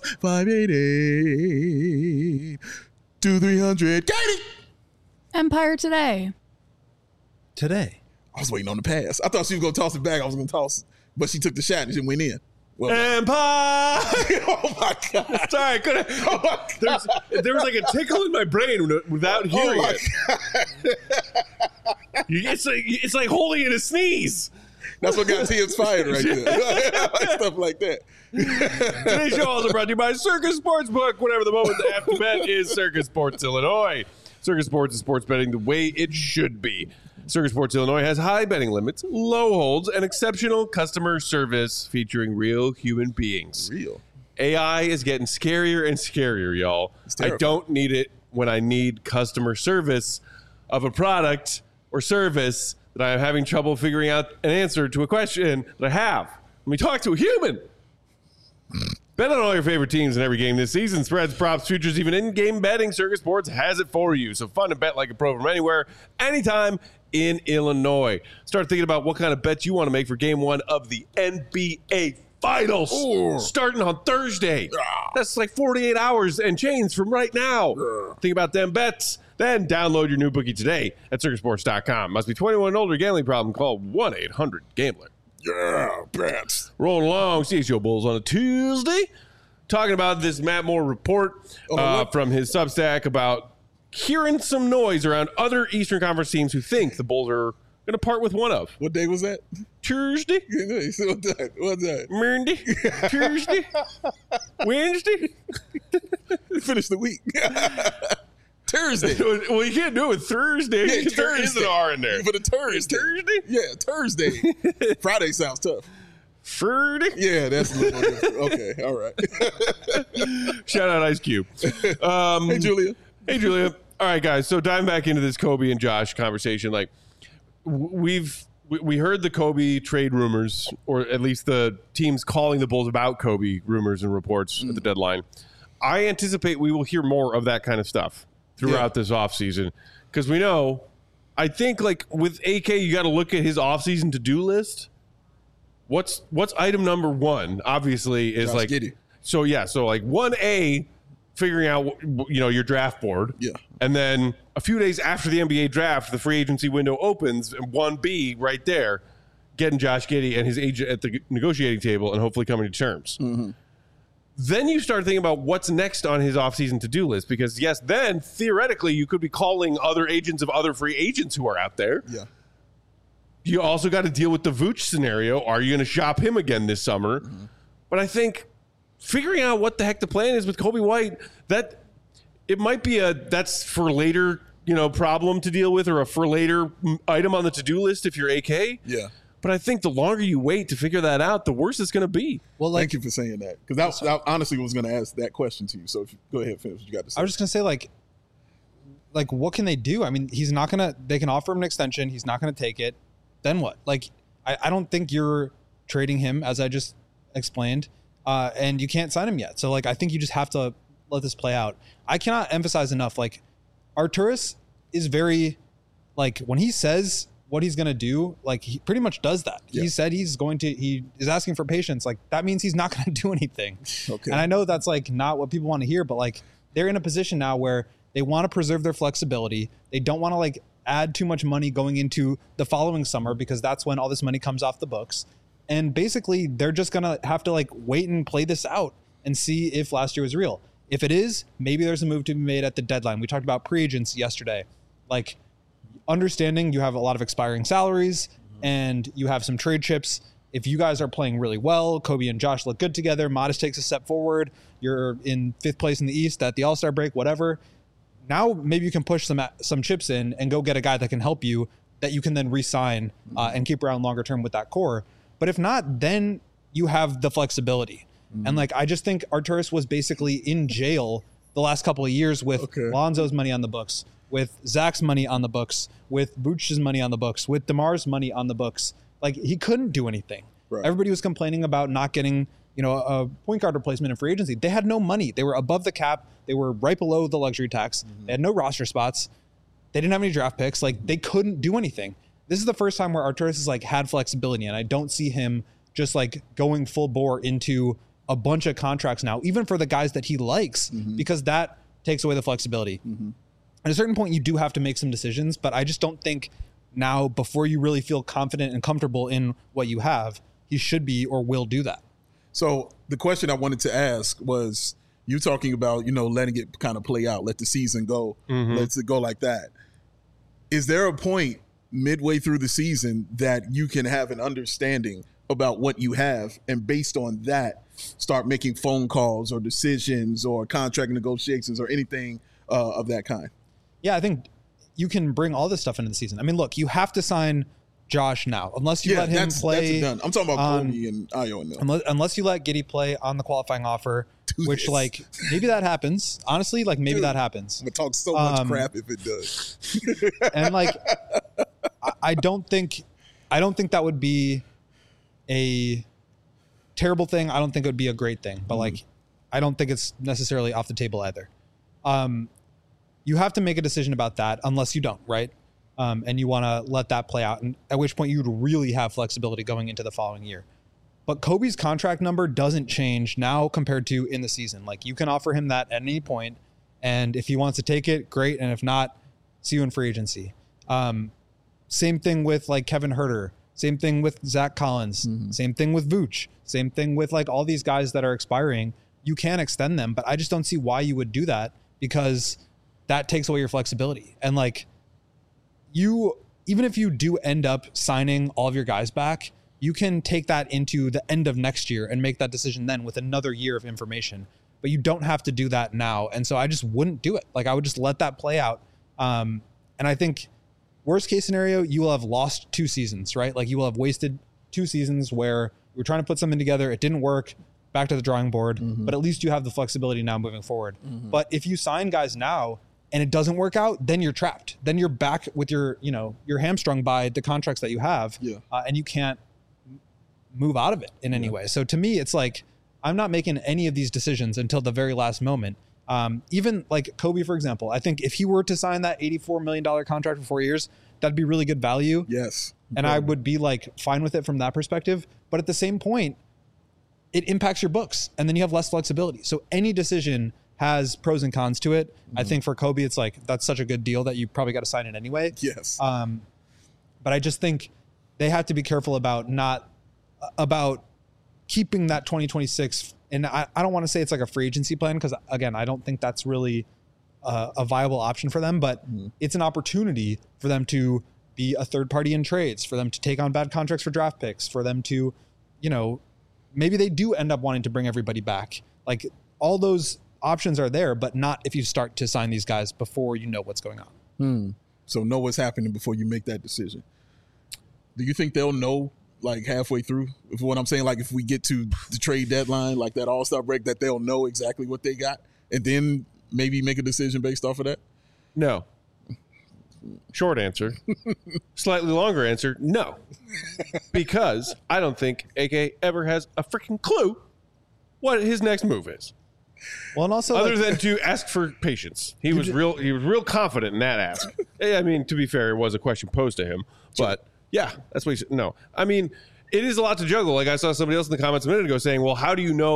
588-2300. Katie! Empire Today. Today. I was waiting on the pass. I thought she was going to toss it back. I was going to toss it. But she took the shot and she went in. Well, Empire! oh my God. Sorry, I couldn't. There was like a tickle in my brain without hearing it. It's like holding in a sneeze. That's what got Tibbs fired right there. Stuff like that. Today's show also brought to you by Circus Sportsbook. Whatever the moment, the after bet is Circus Sports Illinois. Circus Sports is sports betting the way it should be. Circus Sports Illinois has high betting limits, low holds, and exceptional customer service featuring real human beings. Real. AI is getting scarier and scarier, y'all. I don't need it when I need customer service of a product or service that I'm having trouble figuring out an answer to a question that I have. Let me talk to a human. Bet on all your favorite teams in every game this season. Spreads, props, futures, even in-game betting. Circus Sports has it for you. So fun to bet like a pro from anywhere, anytime in Illinois. Start thinking about what kind of bets you want to make for game one of the NBA Finals. Starting on Thursday. That's like 48 hours and change from right now. Think about them bets. Then download your new bookie today at circusports.com. Must be 21 and older. Gambling problem? Call 1-800-GAMBLER. Yeah, bets. Rolling along, CHGO Bulls on a Tuesday. Talking about this Matt Moore report from his Substack about hearing some noise around other Eastern Conference teams who think the Bulls are going to part with one of. What day was that? Tuesday. What's that? Monday. Tuesday. Wednesday. Finish the week. Thursday. Well, you can't do it with Thursday. Yeah, There is an R in there. For the Thursday. Thursday? Yeah, Thursday. Friday sounds tough. Friday? Yeah, that's a little more different. Okay, all right. Shout out Ice Cube. Hey, Julia. Hey, Julia. All right, guys. So diving back into this Kobe and Josh conversation, like we heard the Kobe trade rumors, or at least the teams calling the Bulls about Kobe rumors and reports at the deadline. I anticipate we will hear more of that kind of stuff throughout this offseason because we know, I think like with AK, you got to look at his offseason to-do list. What's item number one? Obviously is Josh Giddey. So like 1A, figuring out your draft board. Yeah. And then a few days after the NBA draft, the free agency window opens, and 1B right there, getting Josh Giddey and his agent at the negotiating table and hopefully coming to terms. Mm-hmm. Then you start thinking about what's next on his offseason to-do list because, yes, then theoretically you could be calling other agents of other free agents who are out there. Yeah. You also got to deal with the Vooch scenario. Are you going to shop him again this summer? Mm-hmm. But I think figuring out what the heck the plan is with Kobe White, that it might be that's for later, problem to deal with or a for later item on the to-do list if you're AK. Yeah. But I think the longer you wait to figure that out, the worse it's going to be. Well, thank you for saying that because I honestly was going to ask that question to you. So if you go ahead and finish what you got to say. I was just going to say like what can they do? I mean, they can offer him an extension. He's not going to take it. Then what? Like, I don't think you're trading him as I just explained. And you can't sign him yet. So like, I think you just have to let this play out. I cannot emphasize enough. Like Arturas is very like when he says what he's going to do, like he pretty much does that. Yeah. He said he is asking for patience. Like that means he's not going to do anything. Okay. And I know that's like not what people want to hear, but like they're in a position now where They want to preserve their flexibility. They don't want to like add too much money going into the following summer because that's when all this money comes off the books. And basically, they're just going to have to like wait and play this out and see if last year was real. If it is, maybe there's a move to be made at the deadline. We talked about pre-agents yesterday. Like, understanding you have a lot of expiring salaries and you have some trade chips. If you guys are playing really well, Kobe and Josh look good together, Modest takes a step forward, you're in 5th place in the East at the All-Star break, whatever. Now maybe you can push some chips in and go get a guy that can help you that you can then re-sign and keep around longer term with that core. But if not, then you have the flexibility. And like, I just think Arturas was basically in jail the last couple of years with Lonzo's money on the books, with Zach's money on the books, with Vooch's money on the books, with DeMar's money on the books. Like, he couldn't do anything. Right. Everybody was complaining about not getting, a point guard replacement in free agency. They had no money. They were above the cap. They were right below the luxury tax. They had no roster spots. They didn't have any draft picks. Like, they couldn't do anything. This is the first time where Arturas has like had flexibility, and I don't see him just like going full bore into a bunch of contracts now, even for the guys that he likes, because that takes away the flexibility. At a certain point, you do have to make some decisions, but I just don't think now, before you really feel confident and comfortable in what you have, he should be or will do that. So the question I wanted to ask was, you talking about, letting it kind of play out, let the season go, let it go like that. Is there a point midway through the season that you can have an understanding about what you have, and based on that, start making phone calls or decisions or contract negotiations or anything of that kind? Yeah, I think you can bring all this stuff into the season. I mean, look, you have to sign Josh now, unless you let him play. That's done. I'm talking about Kobe and Ayo. Unless you let Giddey play on the qualifying offer, which like maybe that happens. Honestly, like maybe that happens. I'm gonna talk so much crap if it does. And like, I don't think that would be a terrible thing. I don't think it would be a great thing, but like, I don't think it's necessarily off the table either. You have to make a decision about that unless you don't, right? And you want to let that play out, and at which point you'd really have flexibility going into the following year. But Kobe's contract number doesn't change now compared to in the season. Like, you can offer him that at any point, and if he wants to take it, great. And if not, see you in free agency. Same thing with like Kevin Huerter. Same thing with Zach Collins. Same thing with Vooch. Same thing with like all these guys that are expiring. You can extend them, but I just don't see why you would do that, because that takes away your flexibility. And like, even if you do end up signing all of your guys back, you can take that into the end of next year and make that decision then with another year of information. But you don't have to do that now. And so I just wouldn't do it. Like, I would just let that play out. And I think worst case scenario, you will have lost 2 seasons, right? Like, you will have wasted 2 seasons where you were trying to put something together. It didn't work. Back to the drawing board. But at least you have the flexibility now moving forward. But if you sign guys now and it doesn't work out, then you're trapped. Then you're back with you're hamstrung by the contracts that you have, and you can't move out of it in any way. So to me, it's like, I'm not making any of these decisions until the very last moment. Even like Kobe, for example, I think if he were to sign that $84 million contract for 4 years, that'd be really good value. Yes. And I would be like fine with it from that perspective. But at the same point, it impacts your books, and then you have less flexibility. So any decision has pros and cons to it. I think for Kobe, it's like, that's such a good deal that you probably got to sign it anyway. Yes. But I just think they have to be careful about keeping that 2026. And I don't want to say it's like a free agency plan, because again, I don't think that's really a viable option for them, but it's an opportunity for them to be a third party in trades, for them to take on bad contracts for draft picks, for them to, maybe they do end up wanting to bring everybody back. Like, all those options are there, but not if you start to sign these guys before you know what's going on. So know what's happening before you make that decision. Do you think they'll know like halfway through? If what I'm saying, like if we get to the trade deadline, like that All-Star break, that they'll know exactly what they got and then maybe make a decision based off of that? No. Short answer. Slightly longer answer, no. Because I don't think AK ever has a freaking clue what his next move is. Well, and also other than to ask for patience. He was real confident in that ask. I mean, to be fair, it was a question posed to him, but yeah, that's what he said. No. I mean, it is a lot to juggle. Like, I saw somebody else in the comments a minute ago saying, well, how do you know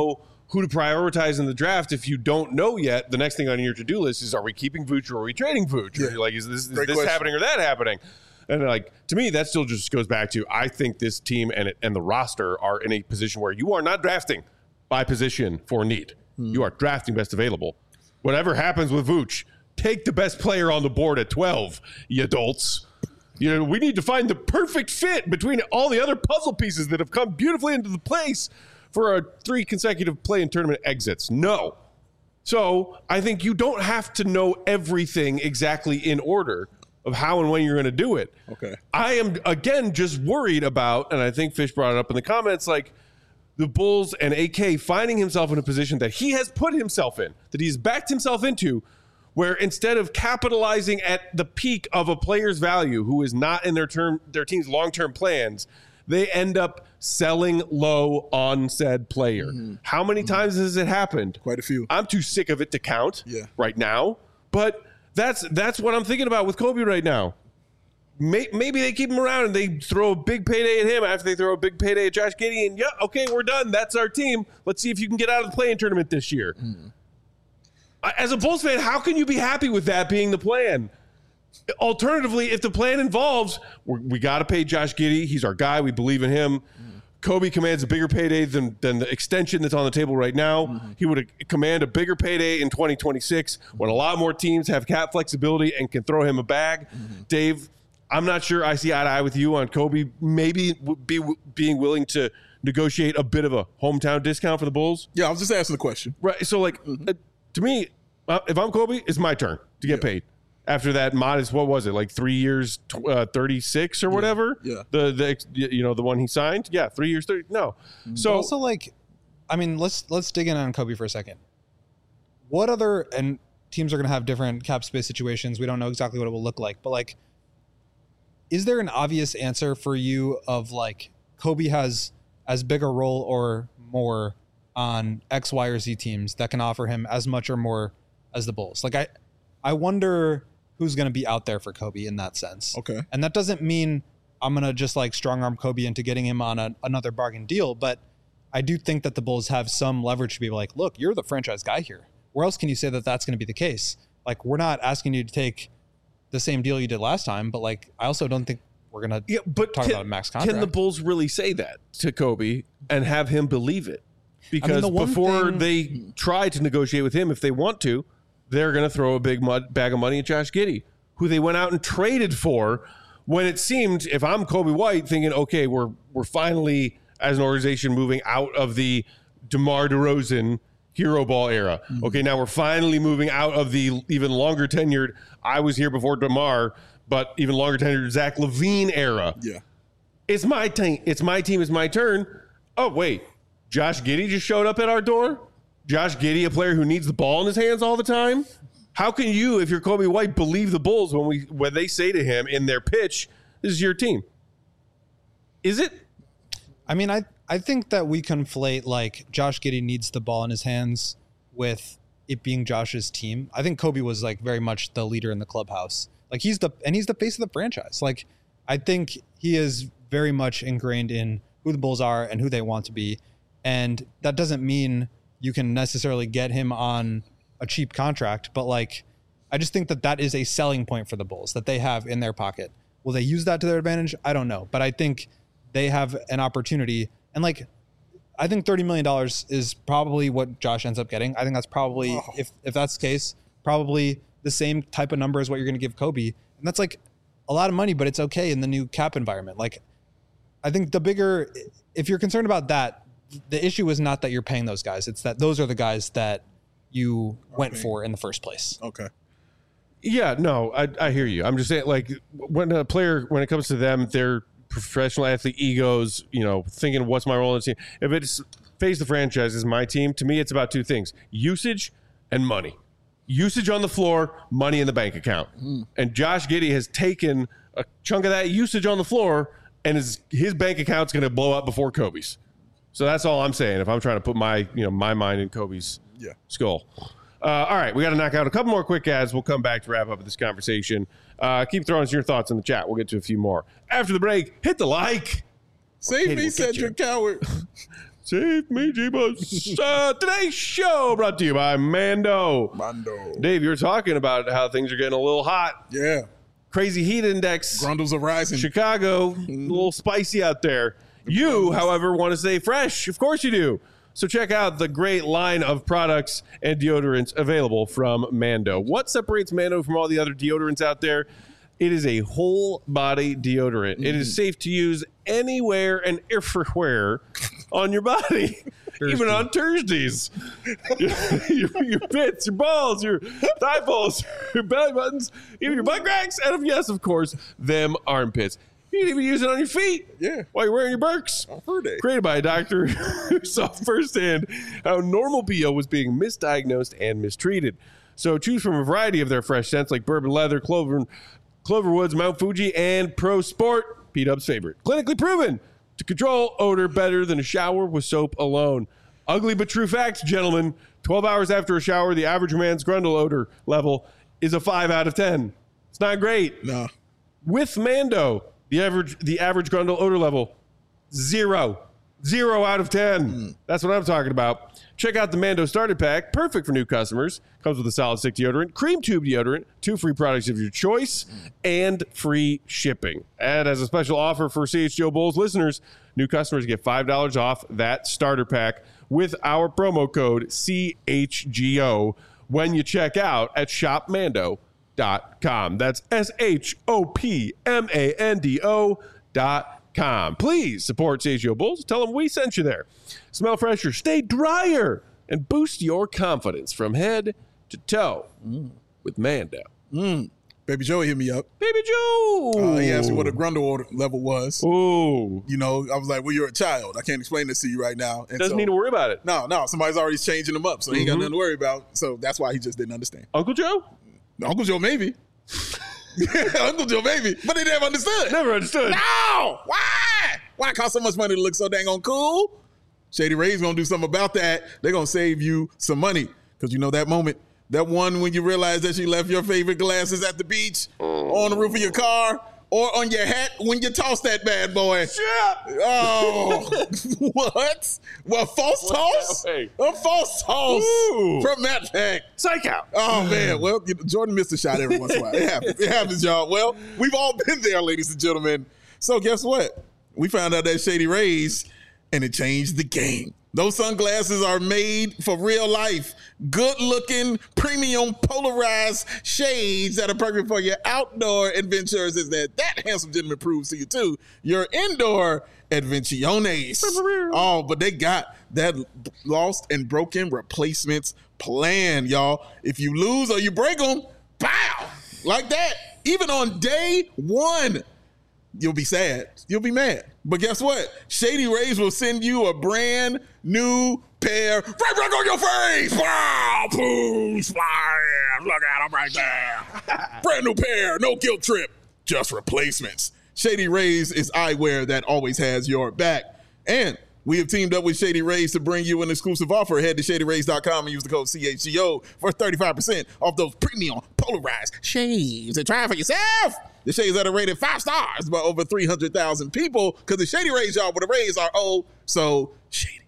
who to prioritize in the draft if you don't know yet. The next thing on your to-do list is, are we keeping Vooch or are we trading Vooch? Yeah. Or you're like, is this Great question. happening or that happening? And like, to me, that still just goes back to, I think this team and the roster are in a position where you are not drafting by position for need. You are drafting best available. Whatever happens with Vooch, take the best player on the board at 12, you adults. You know, we need to find the perfect fit between all the other puzzle pieces that have come beautifully into the place for our 3 consecutive play-in tournament exits. No. So I think you don't have to know everything exactly in order of how and when you're going to do it. Okay. I am, again, just worried about, and I think Fish brought it up in the comments, like the Bulls and AK finding himself in a position that he has put himself in, that he's backed himself into, where instead of capitalizing at the peak of a player's value who is not in their team's long-term plans, they end up selling low on said player. How many times has it happened? Quite a few. I'm too sick of it to count right now, but that's what I'm thinking about with Kobe right now. Maybe they keep him around and they throw a big payday at him after they throw a big payday at Josh Giddey, and okay, we're done. That's our team. Let's see if you can get out of the play-in tournament this year. As a Bulls fan, how can you be happy with that being the plan? Alternatively, if the plan involves, we got to pay Josh Giddey. He's our guy. We believe in him. Kobe commands a bigger payday than the extension that's on the table right now. He would command a bigger payday in 2026 when a lot more teams have cap flexibility and can throw him a bag. Dave, I'm not sure I see eye to eye with you on Kobe maybe being willing to negotiate a bit of a hometown discount for the Bulls. Yeah, I was just asking the question. Right. So, like, to me, if I'm Kobe, it's my turn to get paid. After that modest, what was it, like 3 years, 36 or whatever? Yeah. The one he signed? Yeah, 3 years, 30. No. So But also, like, I mean, let's dig in on Kobe for a second. What other, and teams are going to have different cap space situations. We don't know exactly what it will look like, but like, is there an obvious answer for you of like Kobe has as big a role or more on X, Y, or Z teams that can offer him as much or more as the Bulls? Like, I wonder who's going to be out there for Kobe in that sense. Okay. And that doesn't mean I'm going to just like strong arm Kobe into getting him on another bargain deal. But I do think that the Bulls have some leverage to be like, look, you're the franchise guy here. Where else can you say that that's going to be the case? Like, we're not asking you to take the same deal you did last time, but like, I also don't think we're going to talk about a max contract. Can the Bulls really say that to Kobe and have him believe it? Because before they try to negotiate with him, if they want to, they're going to throw a big bag of money at Josh Giddey, who they went out and traded for when it seemed, if I'm Kobe White, thinking, okay, we're finally, as an organization, moving out of the DeMar DeRozan hero ball era. Okay, now we're finally moving out of the even longer tenured, I was here before DeMar, but even longer tenured Zach LaVine era. Yeah. It's my team. It's my team. It's my turn. Oh, wait. Josh Giddey just showed up at our door? Josh Giddey, a player who needs the ball in his hands all the time? How can you, if you're Kobe White, believe the Bulls when they say to him in their pitch, this is your team? Is it? I mean, I think that we conflate like Josh Giddey needs the ball in his hands with it being Josh's team. I think Kobe was like very much the leader in the clubhouse. Like he's the face of the franchise. Like I think he is very much ingrained in who the Bulls are and who they want to be. And that doesn't mean you can necessarily get him on a cheap contract, but like, I just think that is a selling point for the Bulls that they have in their pocket. Will they use that to their advantage? I don't know, but I think they have an opportunity. And like, I think $30 million is probably what Josh ends up getting. I think that's probably, if that's the case, probably the same type of number as what you're going to give Kobe. And that's like a lot of money, but it's okay in the new cap environment. Like, I think if you're concerned about that, the issue is not that you're paying those guys. It's that those are the guys that you went for in the first place. Okay. Yeah, no, I hear you. I'm just saying, like, when it comes to them, their professional athlete egos, thinking, what's my role in the team? If it's face the franchise is my team, to me, it's about two things: usage and money. Usage on the floor, money in the bank account. And Josh Giddey has taken a chunk of that usage on the floor, and his bank account's going to blow up before Kobe's. So that's all I'm saying. If I'm trying to put my mind in Kobe's skull. All right, we got to knock out a couple more quick ads. We'll come back to wrap up this conversation. Keep throwing us your thoughts in the chat. We'll get to a few more after the break. Hit the like. Save me, Cedric Coward. Save me, Jeebus. Today's show brought to you by Mando. Dave, you were talking about how things are getting a little hot. Yeah. Crazy heat index. Grundles are rising. Chicago, a little spicy out there. You, however, want to stay fresh. Of course you do. So check out the great line of products and deodorants available from Mando. What separates Mando from all the other deodorants out there? It is a whole body deodorant. It is safe to use anywhere and everywhere on your body, even on Thursdays. your pits, your balls, your thigh balls, your belly buttons, even your butt cracks, and yes, of course, them armpits. You can even use it on your feet. Yeah. While you're wearing your Birks. Created by a doctor who saw firsthand how normal BO was being misdiagnosed and mistreated. So choose from a variety of their fresh scents like bourbon leather, Cloverwoods, Mount Fuji, and Pro Sport, P-Dub's favorite. Clinically proven to control odor better than a shower with soap alone. Ugly but true facts, gentlemen. 12 hours after a shower, the average man's Grundle odor level is a 5 out of 10. It's not great. No. With Mando, the average Grundle odor level, 0. 0 out of 10. That's what I'm talking about. Check out the Mando Starter Pack, perfect for new customers. Comes with a solid stick deodorant, cream tube deodorant, 2 free products of your choice, and free shipping. And as a special offer for CHGO Bulls listeners, new customers get $5 off that starter pack with our promo code CHGO when you check out at shopmando.com. That's SHOPMANDO.com. Please support CHGO Bulls. Tell them we sent you there. Smell fresher, stay drier, and boost your confidence from head to toe with Mando. Baby Joe hit me up. Baby Joe! He asked me what a Grundle order level was. Ooh. You know, I was like, well, you're a child. I can't explain this to you right now. And Doesn't need to worry about it. No, somebody's already changing them up, so he ain't got nothing to worry about. So that's why he just didn't understand. Uncle Joe? Uncle Joe, maybe. Uncle Joe, maybe. But he never understood. Never understood. No! Why? Why cost so much money to look so dang on cool? Shady Ray's gonna do something about that. They're gonna save you some money. Because you know that moment, that one when you realize that you left your favorite glasses at the beach, on the roof of your car, or on your hat when you toss that bad boy. Shit! Oh, what? What, false toss? A false toss from Matt Peck. Psych out. Oh, man. Well, Jordan missed a shot every once in a while. It happens. It happens, y'all. Well, we've all been there, ladies and gentlemen. So guess what? We found out that Shady Rays, and it changed the game. Those sunglasses are made for real life. Good-looking, premium, polarized shades that are perfect for your outdoor adventures. Is that handsome gentleman proves to you, too. Your indoor adventiones. Oh, but they got that lost and broken replacements plan, y'all. If you lose or you break them, pow! Like that. Even on day one, you'll be sad. You'll be mad. But guess what? Shady Rays will send you a brand new pair right back on your face. Wow, boom, splash. Look at them right there. Brand new pair, no guilt trip, just replacements. Shady Rays is eyewear that always has your back. And we have teamed up with Shady Rays to bring you an exclusive offer. Head to shadyrays.com and use the code CHGO for 35% off those premium polarized shades. And try it for yourself. The shades that are rated 5 stars by over 300,000 people, because the Shady Rays, y'all, where the Rays are so shady.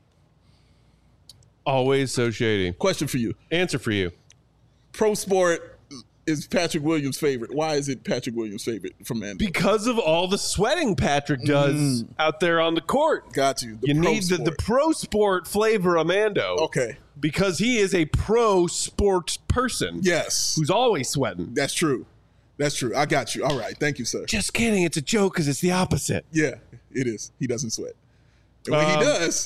Always so shady. Question for you. Answer for you. Pro Sport is Patrick Williams' favorite. Why is it Patrick Williams' favorite from Mando? Because of all the sweating Patrick does out there on the court. Got you. You need the Pro Sport flavor of Mando. Okay. Because he is a pro sport person. Yes. Who's always sweating. That's true. That's true. I got you. All right. Thank you, sir. Just kidding. It's a joke because it's the opposite. Yeah, it is. He doesn't sweat. And when he does,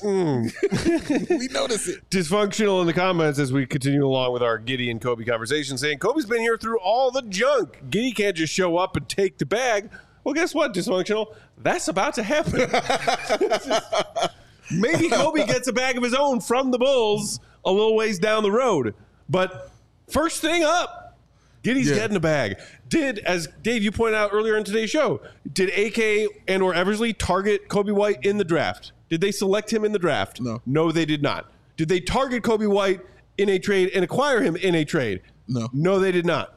we notice it. Dysfunctional in the comments as we continue along with our Giddy and Kobe conversation, saying Kobe's been here through all the junk. Giddy can't just show up and take the bag. Well, guess what, Dysfunctional? That's about to happen. Maybe Kobe gets a bag of his own from the Bulls a little ways down the road. But first thing up, Giddy's getting a bag. As Dave, you pointed out earlier in today's show, did AK and or Eversley target Kobe White in the draft? Did they select him in the draft? No. No, they did not. Did they target Kobe White in a trade and acquire him in a trade? No. No, they did not.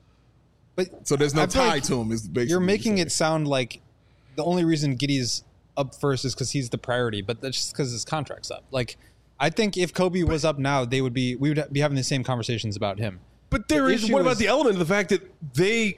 But so there's no I feel tie like to him. Is basically you're making it sound like the only reason Giddy's up first is because he's the priority, but that's just because his contract's up. Like, I think if Kobe was up now, we would be having the same conversations about him. But what about the element of the fact that they,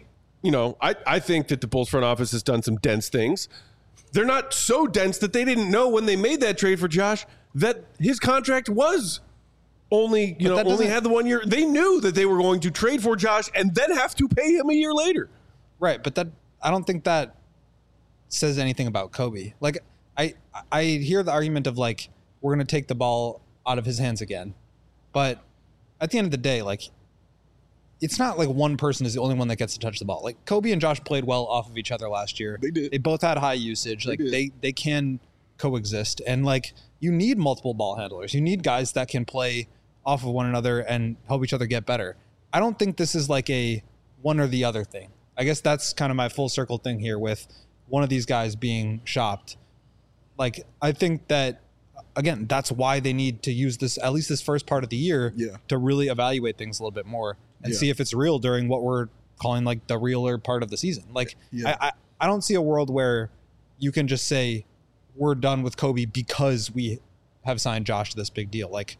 I think that the Bulls front office has done some dense things. They're not so dense that they didn't know when they made that trade for Josh that his contract was only had the 1 year. They knew that they were going to trade for Josh and then have to pay him a year later. Right, but I don't think that says anything about Kobe. Like, I hear the argument of like, we're going to take the ball out of his hands again. But at the end of the day, like, it's not like one person is the only one that gets to touch the ball. Like, Kobe and Josh played well off of each other last year. They did. They both had high usage. Like, they can coexist. And like, you need multiple ball handlers. You need guys that can play off of one another and help each other get better. I don't think this is like a one or the other thing. I guess that's kind of my full circle thing here with one of these guys being shopped. Like, I think that, again, that's why they need to use this, at least this first part of the year, to really evaluate things a little bit more and see if it's real during what we're calling like the realer part of the season. Like, I don't see a world where you can just say we're done with Kobe because we have signed Josh to this big deal. Like,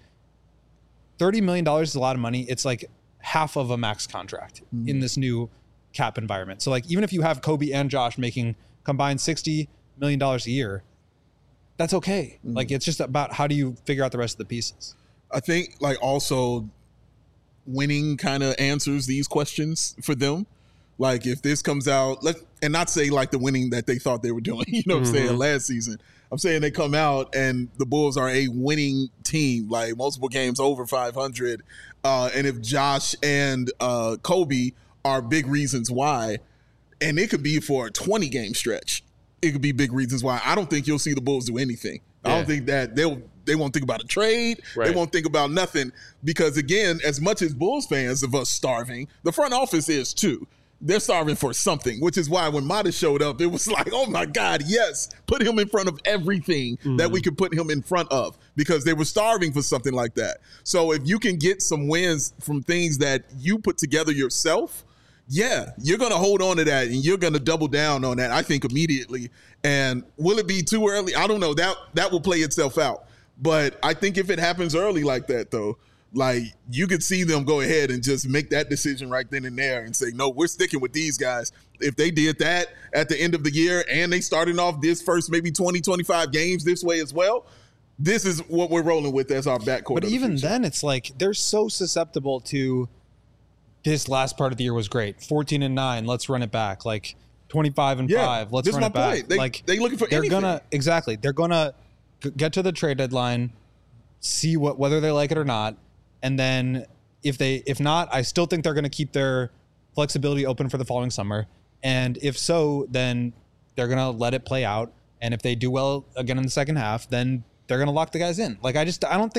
$30 million is a lot of money. It's like half of a max contract in this new cap environment. So like, even if you have Kobe and Josh making combined $60 million a year, that's okay. Like, it's just about how do you figure out the rest of the pieces. I think like also winning kind of answers these questions for them. Like, if this comes out, and not say like the winning that they thought they were doing, you know what I'm saying, last season. I'm saying they come out and the Bulls are a winning team, like multiple games over 500. And if Josh and Kobe are big reasons why, and it could be for a 20-game stretch, it could be big reasons why. I don't think you'll see the Bulls do anything. I don't think that they won't think about a trade. Right. They won't think about nothing because, again, as much as Bulls fans of us starving, the front office is too. They're starving for something, which is why when Mata showed up, it was like, oh my God, yes, put him in front of everything that we could put him in front of because they were starving for something like that. So if you can get some wins from things that you put together yourself, yeah, you're going to hold on to that and you're going to double down on that, I think, immediately. And will it be too early? I don't know. That will play itself out. But I think if it happens early like that, though, like, you could see them go ahead and just make that decision right then and there and say, no, we're sticking with these guys. If they did that at the end of the year and they started off this first maybe 20, 25 games this way as well, this is what we're rolling with as our backcourt. But even then, it's like they're so susceptible to this last part of the year was great. 14-9, let's run it back. Like 25-5, let's run it back. They looking for anything. They're gonna get to the trade deadline, see whether they like it or not. And then if not, I still think they're going to keep their flexibility open for the following summer. And if so, then they're going to let it play out. And if they do well again in the second half, then they're going to lock the guys in. Like, I really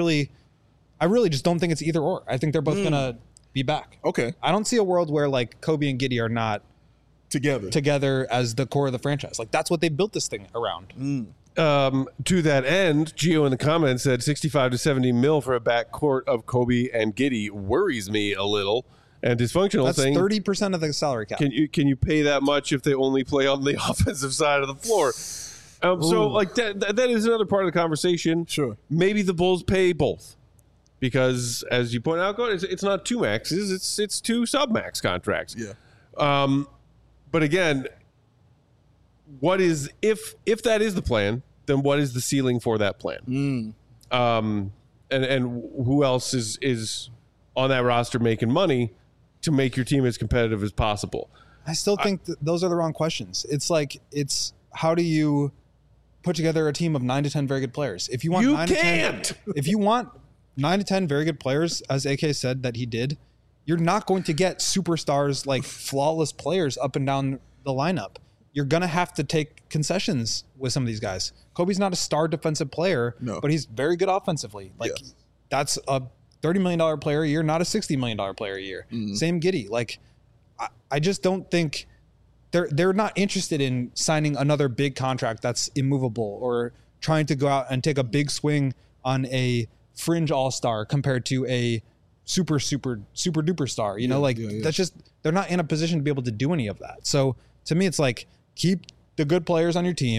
just don't think it's either or. I think they're both going to be back. Okay. I don't see a world where like Kobe and Giddey are not together as the core of the franchise. Like, that's what they built this thing around. To that end, Gio in the comments said 65 to 70 mil for a backcourt of Kobe and Giddey worries me a little. And dysfunctional. That's 30% of the salary cap. Can you pay that much if they only play on the offensive side of the floor? So like that is another part of the conversation. Sure. Maybe the Bulls pay both because, as you point out, it's not two maxes; it's two sub-max contracts. Yeah. But again, what is if that is the plan? Then what is the ceiling for that plan? And who else is on that roster making money to make your team as competitive as possible? I still think those are the wrong questions. It's like how do you put together a team of 9 to 10 very good players? If you want if you want 9 to 10 very good players, as AK said that he did, you're not going to get superstars like flawless players up and down the lineup. You're going to have to take concessions with some of these guys. Kobe's not a star defensive player, but he's very good offensively. Like, that's a $30 million player a year, not a $60 million player a year. Same Giddey. Like, I just don't think they're not interested in signing another big contract that's immovable or trying to go out and take a big swing on a fringe all-star compared to a super duper star. That's just, they're not in a position to be able to do any of that. So to me, it's like, keep the good players on your team,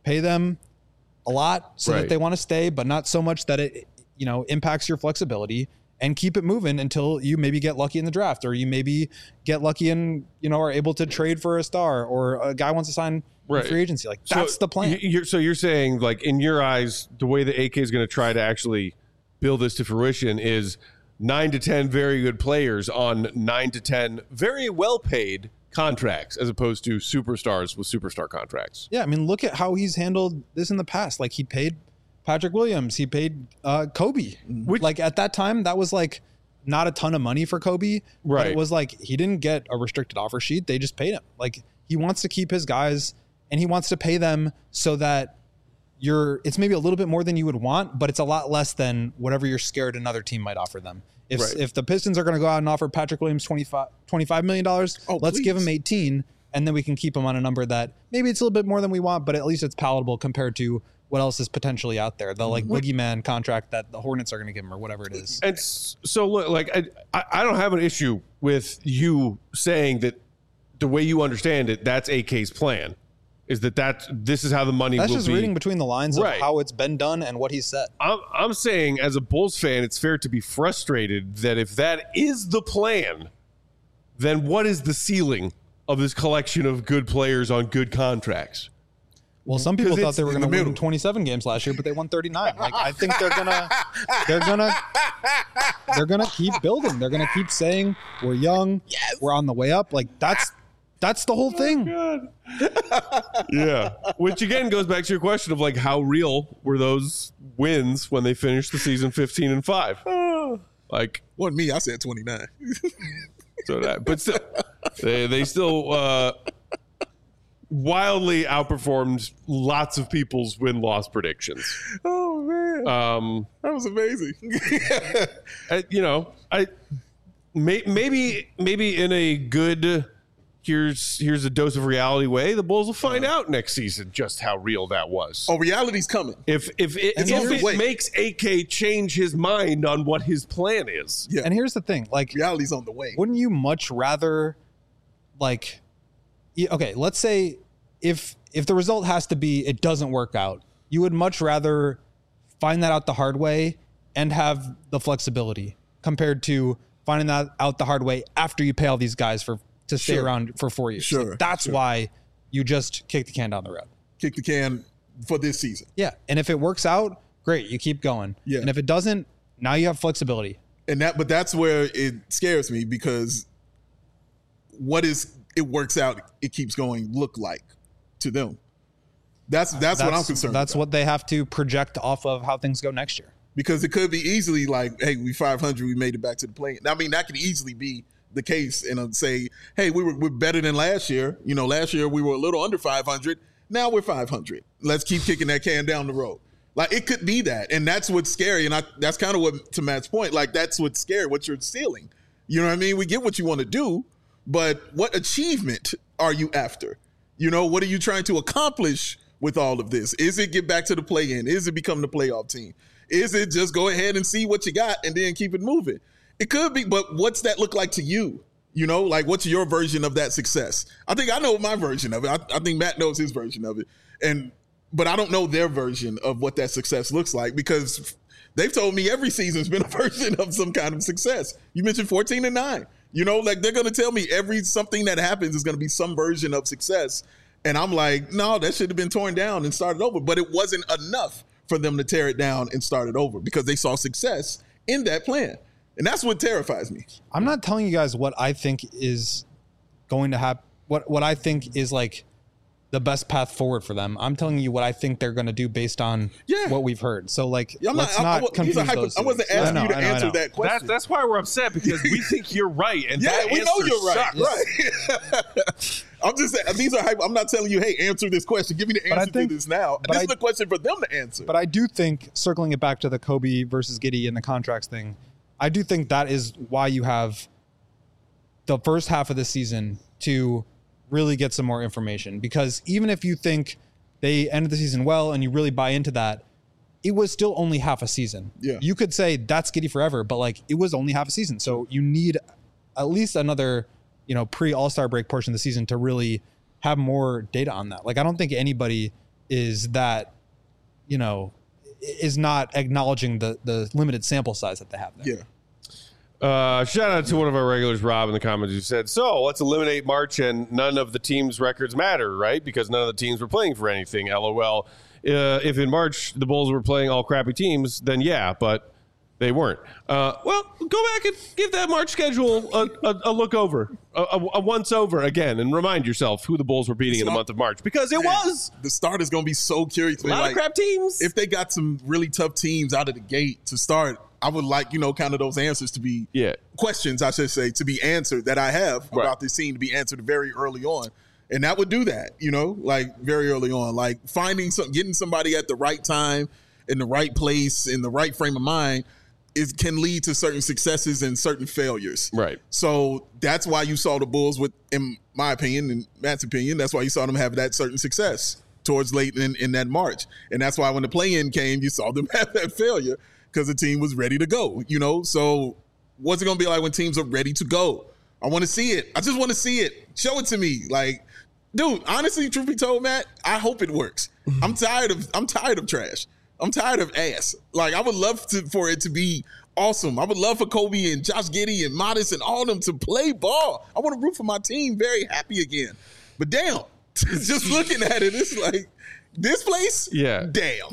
pay them a lot so Right. that they want to stay, but not so much that it, impacts your flexibility, and keep it moving until you maybe get lucky in the draft, or you maybe get lucky and, are able to trade for a star, or a guy wants to sign Right. free agency. Like, that's the plan. So you're saying, like, in your eyes, the way that AK is going to try to actually build this to fruition is 9 to 10 very good players on 9 to 10 very well paid contracts, as opposed to superstars with superstar contracts. Yeah, I mean, look at how he's handled this in the past. Like, he paid Patrick Williams, he paid Kobe. Which- Like, at that time, that was like not a ton of money for Kobe. But Right. it was like he didn't get a restricted offer sheet. They just paid him. Like, he wants to keep his guys, and he wants to pay them so that it's maybe a little bit more than you would want, but it's a lot less than whatever you're scared another team might offer them. If the Pistons are going to go out and offer Patrick Williams $25 million, let's give him 18, and then we can keep him on a number that maybe it's a little bit more than we want, but at least it's palatable compared to what else is potentially out there. The boogeyman contract that the Hornets are going to give him, or whatever it is. And so, look, like, I don't have an issue with you saying that the way you understand it, that's AK's plan, is this is how the money That's will just be. reading between the lines of Right. how it's been done and what he said. I'm saying, as a Bulls fan, it's fair to be frustrated that if that is the plan, then what is the ceiling of this collection of good players on good contracts? Well, some people 'Cause thought it's they were in going the to win middle. 27 games last year, but they won 39. Like, I think they're gonna keep building. They're gonna keep saying we're young, we're on the way up. Like, that's the whole thing. Yeah. Which, again, goes back to your question of, like, how real were those wins when they finished the season 15-5? Like, Wasn't me. I said 29. so that, but still, they still wildly outperformed lots of people's win-loss predictions. Oh man, that was amazing. Maybe in a good here's a dose of reality way, the Bulls will find out next season just how real that was. Oh, reality's coming. If on the way. it makes AK change his mind on what his plan is. Yeah, And here's the thing, like, reality's on the way. wouldn't you much rather, like, okay, let's say if the result has to be it doesn't work out, you would much rather find that out the hard way and have the flexibility compared to finding that out the hard way after you pay all these guys to stay Sure. around for 4 years. Sure, Like, that's sure. why you just kick the can down the road. Kick the can for this season. Yeah, and if it works out, great, you keep going. Yeah. And if it doesn't, now you have flexibility. But that's where it scares me, because what is it works out, it keeps going look like to them. That's what I'm concerned That's about. what they have to project off of how things go next year. Because it could be easily like, hey, we 500, we made it back to the play. I mean, that could easily be the case, and say, hey, we're better than last year. Last year we were a little under 500. Now we're 500. Let's keep kicking that can down the road. Like, it could be that, and that's what's scary. And that's kind of what, to Matt's point, like, that's what's scary. What you're stealing. You know what I mean? We get what you want to do, but what achievement are you after? What are you trying to accomplish with all of this? Is it get back to the play-in? Is it become the playoff team? Is it just go ahead and see what you got and then keep it moving? It could be, but what's that look like to you? Like, what's your version of that success? I think I know my version of it. I think Matt knows his version of it. But I don't know their version of what that success looks like, because they've told me every season's been a version of some kind of success. You mentioned 14-9. Like, they're going to tell me something that happens is going to be some version of success. And I'm like, no, that should have been torn down and started over. But it wasn't enough for them to tear it down and start it over, because they saw success in that plan. And that's what terrifies me. I'm not telling you guys what I think is going to happen, what I think is like the best path forward for them. I'm telling you what I think they're going to do based on what we've heard. So, like, let's not confuse those. I wasn't asking you to answer that question. That's why we're upset, because we think you're right, and Yeah, that we know answer you're right. sucks. Right. I'm just saying, these are hype. I'm not telling you, hey, answer this question. Give me the I answer think- to this now. but This I- is the question for them to answer. But I do think, circling it back to the Kobe versus Giddey and the contracts thing, I do think that is why you have the first half of the season to really get some more information. Because even if you think they ended the season well and you really buy into that, it was still only half a season. Yeah. You could say that's Giddey forever, but like, it was only half a season. So you need at least another, pre All-Star break portion of the season to really have more data on that. Like, I don't think anybody is that, is not acknowledging the limited sample size that they have there. Yeah. Shout out to one of our regulars, Rob, in the comments who said, so let's eliminate March and none of the teams' records matter, right? Because none of the teams were playing for anything. LOL. If in March the Bulls were playing all crappy teams, then yeah, but they weren't. Well, go back and give that March schedule a look over, a once over again, and remind yourself who the Bulls were beating in the month of March, because it was. The start is going to be so curious. A lot of crap teams. If they got some really tough teams out of the gate to start, I would like, kind of those answers to be questions, I should say, to be answered that I have about this team to be answered very early on. And that would do that, like very early on, like getting somebody at the right time, in the right place, in the right frame of mind, it can lead to certain successes and certain failures. Right. So that's why you saw the Bulls in my opinion, and Matt's opinion, that's why you saw them have that certain success towards late in that March. And that's why when the play-in came, you saw them have that failure because the team was ready to go, So what's it going to be like when teams are ready to go? I want to see it. I just want to see it. Show it to me. Like, dude, honestly, truth be told, Matt, I hope it works. I'm tired of trash. I'm tired of ass. Like, I would love for it to be awesome. I would love for Kobe and Josh Giddey and Modest and all of them to play ball. I want to root for my team very happy again. But damn, just looking at it, it's like, this place? Yeah. Damn.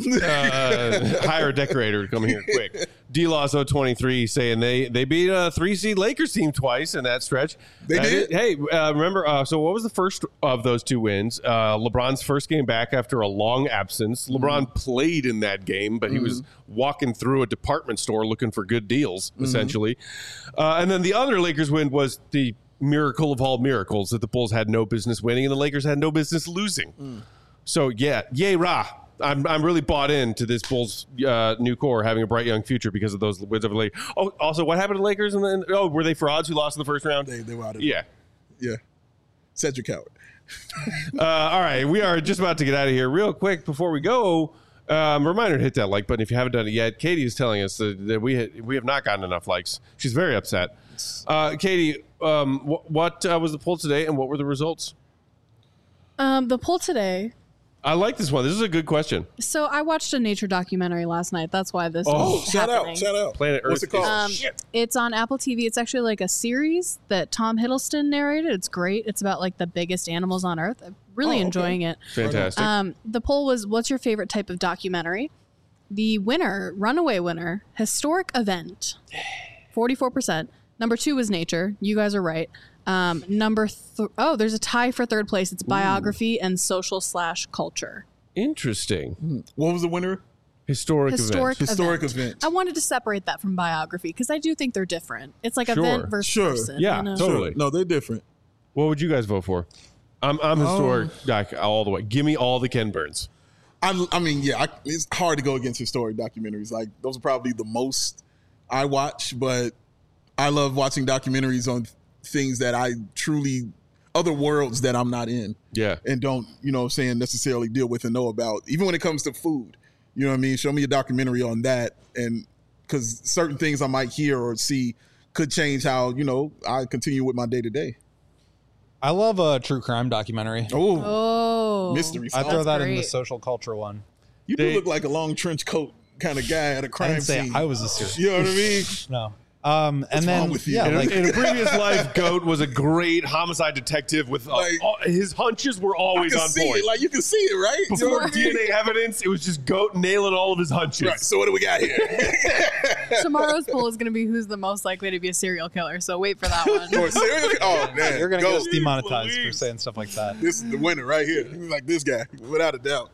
Hire a decorator to come here quick. D-Loss023 saying they beat a 3-seed Lakers team twice in that stretch. They did? Hey, remember, so what was the first of those two wins? LeBron's first game back after a long absence. LeBron played in that game, but he was walking through a department store looking for good deals, essentially. And then the other Lakers win was the miracle of all miracles that the Bulls had no business winning and the Lakers had no business losing. So, yeah, yay, rah. I'm really bought into this Bulls new core having a bright young future because of those wins over the Lakers. Oh, also, what happened to the Lakers? And then, were they frauds who lost in the first round? They were out of it. Yeah. Yeah. Cedric Howard. All right, we are just about to get out of here. Real quick, before we go, reminder to hit that like button if you haven't done it yet. Katie is telling us that we have not gotten enough likes. She's very upset. Katie, what was the poll today and what were the results? The poll today. I like this one. This is a good question. So I watched a nature documentary last night. That's why this is shout happening. out. Planet Earth. What's it called? It's on Apple TV. It's actually like a series that Tom Hiddleston narrated. It's great. It's about like the biggest animals on Earth. I'm really enjoying it. Fantastic. The poll was, what's your favorite type of documentary? The winner, runaway winner, historic event, 44%. Number 2 was nature. You guys are right. There's a tie for third place. It's biography and social/culture. Interesting. What was the winner? Historic event. I wanted to separate that from biography because I do think they're different. It's like event versus person. Yeah, you know? totally. No, they're different. What would you guys vote for? I'm historic doc all the way. Give me all the Ken Burns. It's hard to go against historic documentaries. Like, those are probably the most I watch, but I love watching documentaries on things that I truly, other worlds that I'm not in. Yeah. And don't, necessarily deal with and know about. Even when it comes to food, you know what I mean? Show me a documentary on that. And because certain things I might hear or see could change how, I continue with my day to day. I love a true crime documentary. Oh. Mystery. I throw that in the great. social culture one. You do look like a long trench coat kind of guy at a I crime didn't say scene. I was a serious. You know what I mean? No. And then wrong with you? yeah, In a previous life, Goat was a great homicide detective with his hunches were always on see point. it. Like, you can see it, right? Before DNA evidence, it was just Goat nailing all of his hunches. Right. So what do we got here? Tomorrow's poll is going to be who's the most likely to be a serial killer. So wait for that one. Or serial? Oh man, you're gonna Go. get us demonetized for Louise. saying stuff like that. This is the winner right here. He's like this guy, without a doubt.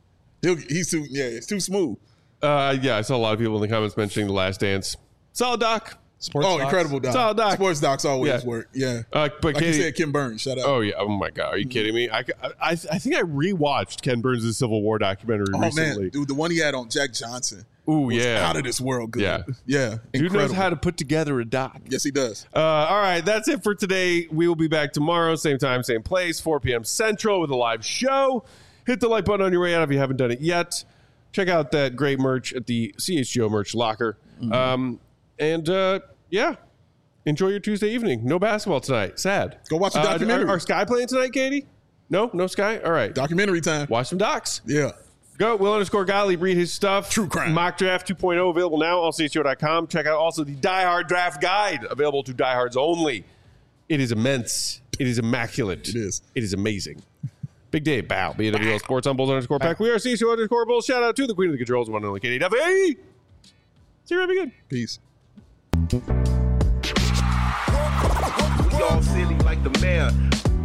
It's too smoough. I saw a lot of people in the comments mentioning The Last Dance. Solid doc. Sports docs. Incredible doc. Solid doc. Sports docs always work. Yeah. But Like Katie, you said, Kim Burns. Shout out. oh yeah, oh my God, are you kidding me? I think I rewatched Ken Burns' Civil War documentary recently. Man, dude, the one he had on Jack Johnson. Ooh, was yeah. out of this world good. Yeah. Yeah. Dude Incredible. knows how to put together a doc. Yes, he does. All right, that's it for today. We will be back tomorrow, same time, same place, 4 p.m. Central with a live show. Hit the like button on your way out if you haven't done it yet. Check out that great merch at the CHGO merch locker. Enjoy your Tuesday evening. No basketball tonight. Sad. Go watch the documentary. Are Sky playing tonight, Katie? No Sky? All right. Documentary time. Watch some docs. Yeah. Go, Will_Gottlieb, read his stuff. True crime. Mock Draft 2.0 available now on CHGO.com. Check out also the Die Hard Draft Guide available to diehards only. It is immense. It is immaculate. It is. It is amazing. Big Dave, bow. BWL Sports on Bulls_Pack. We are CHGO_Bulls. Shout out to the Queen of the Controls, one and only Katie Duffy. See you, Robbie. Good. Peace. We all silly like the mayor.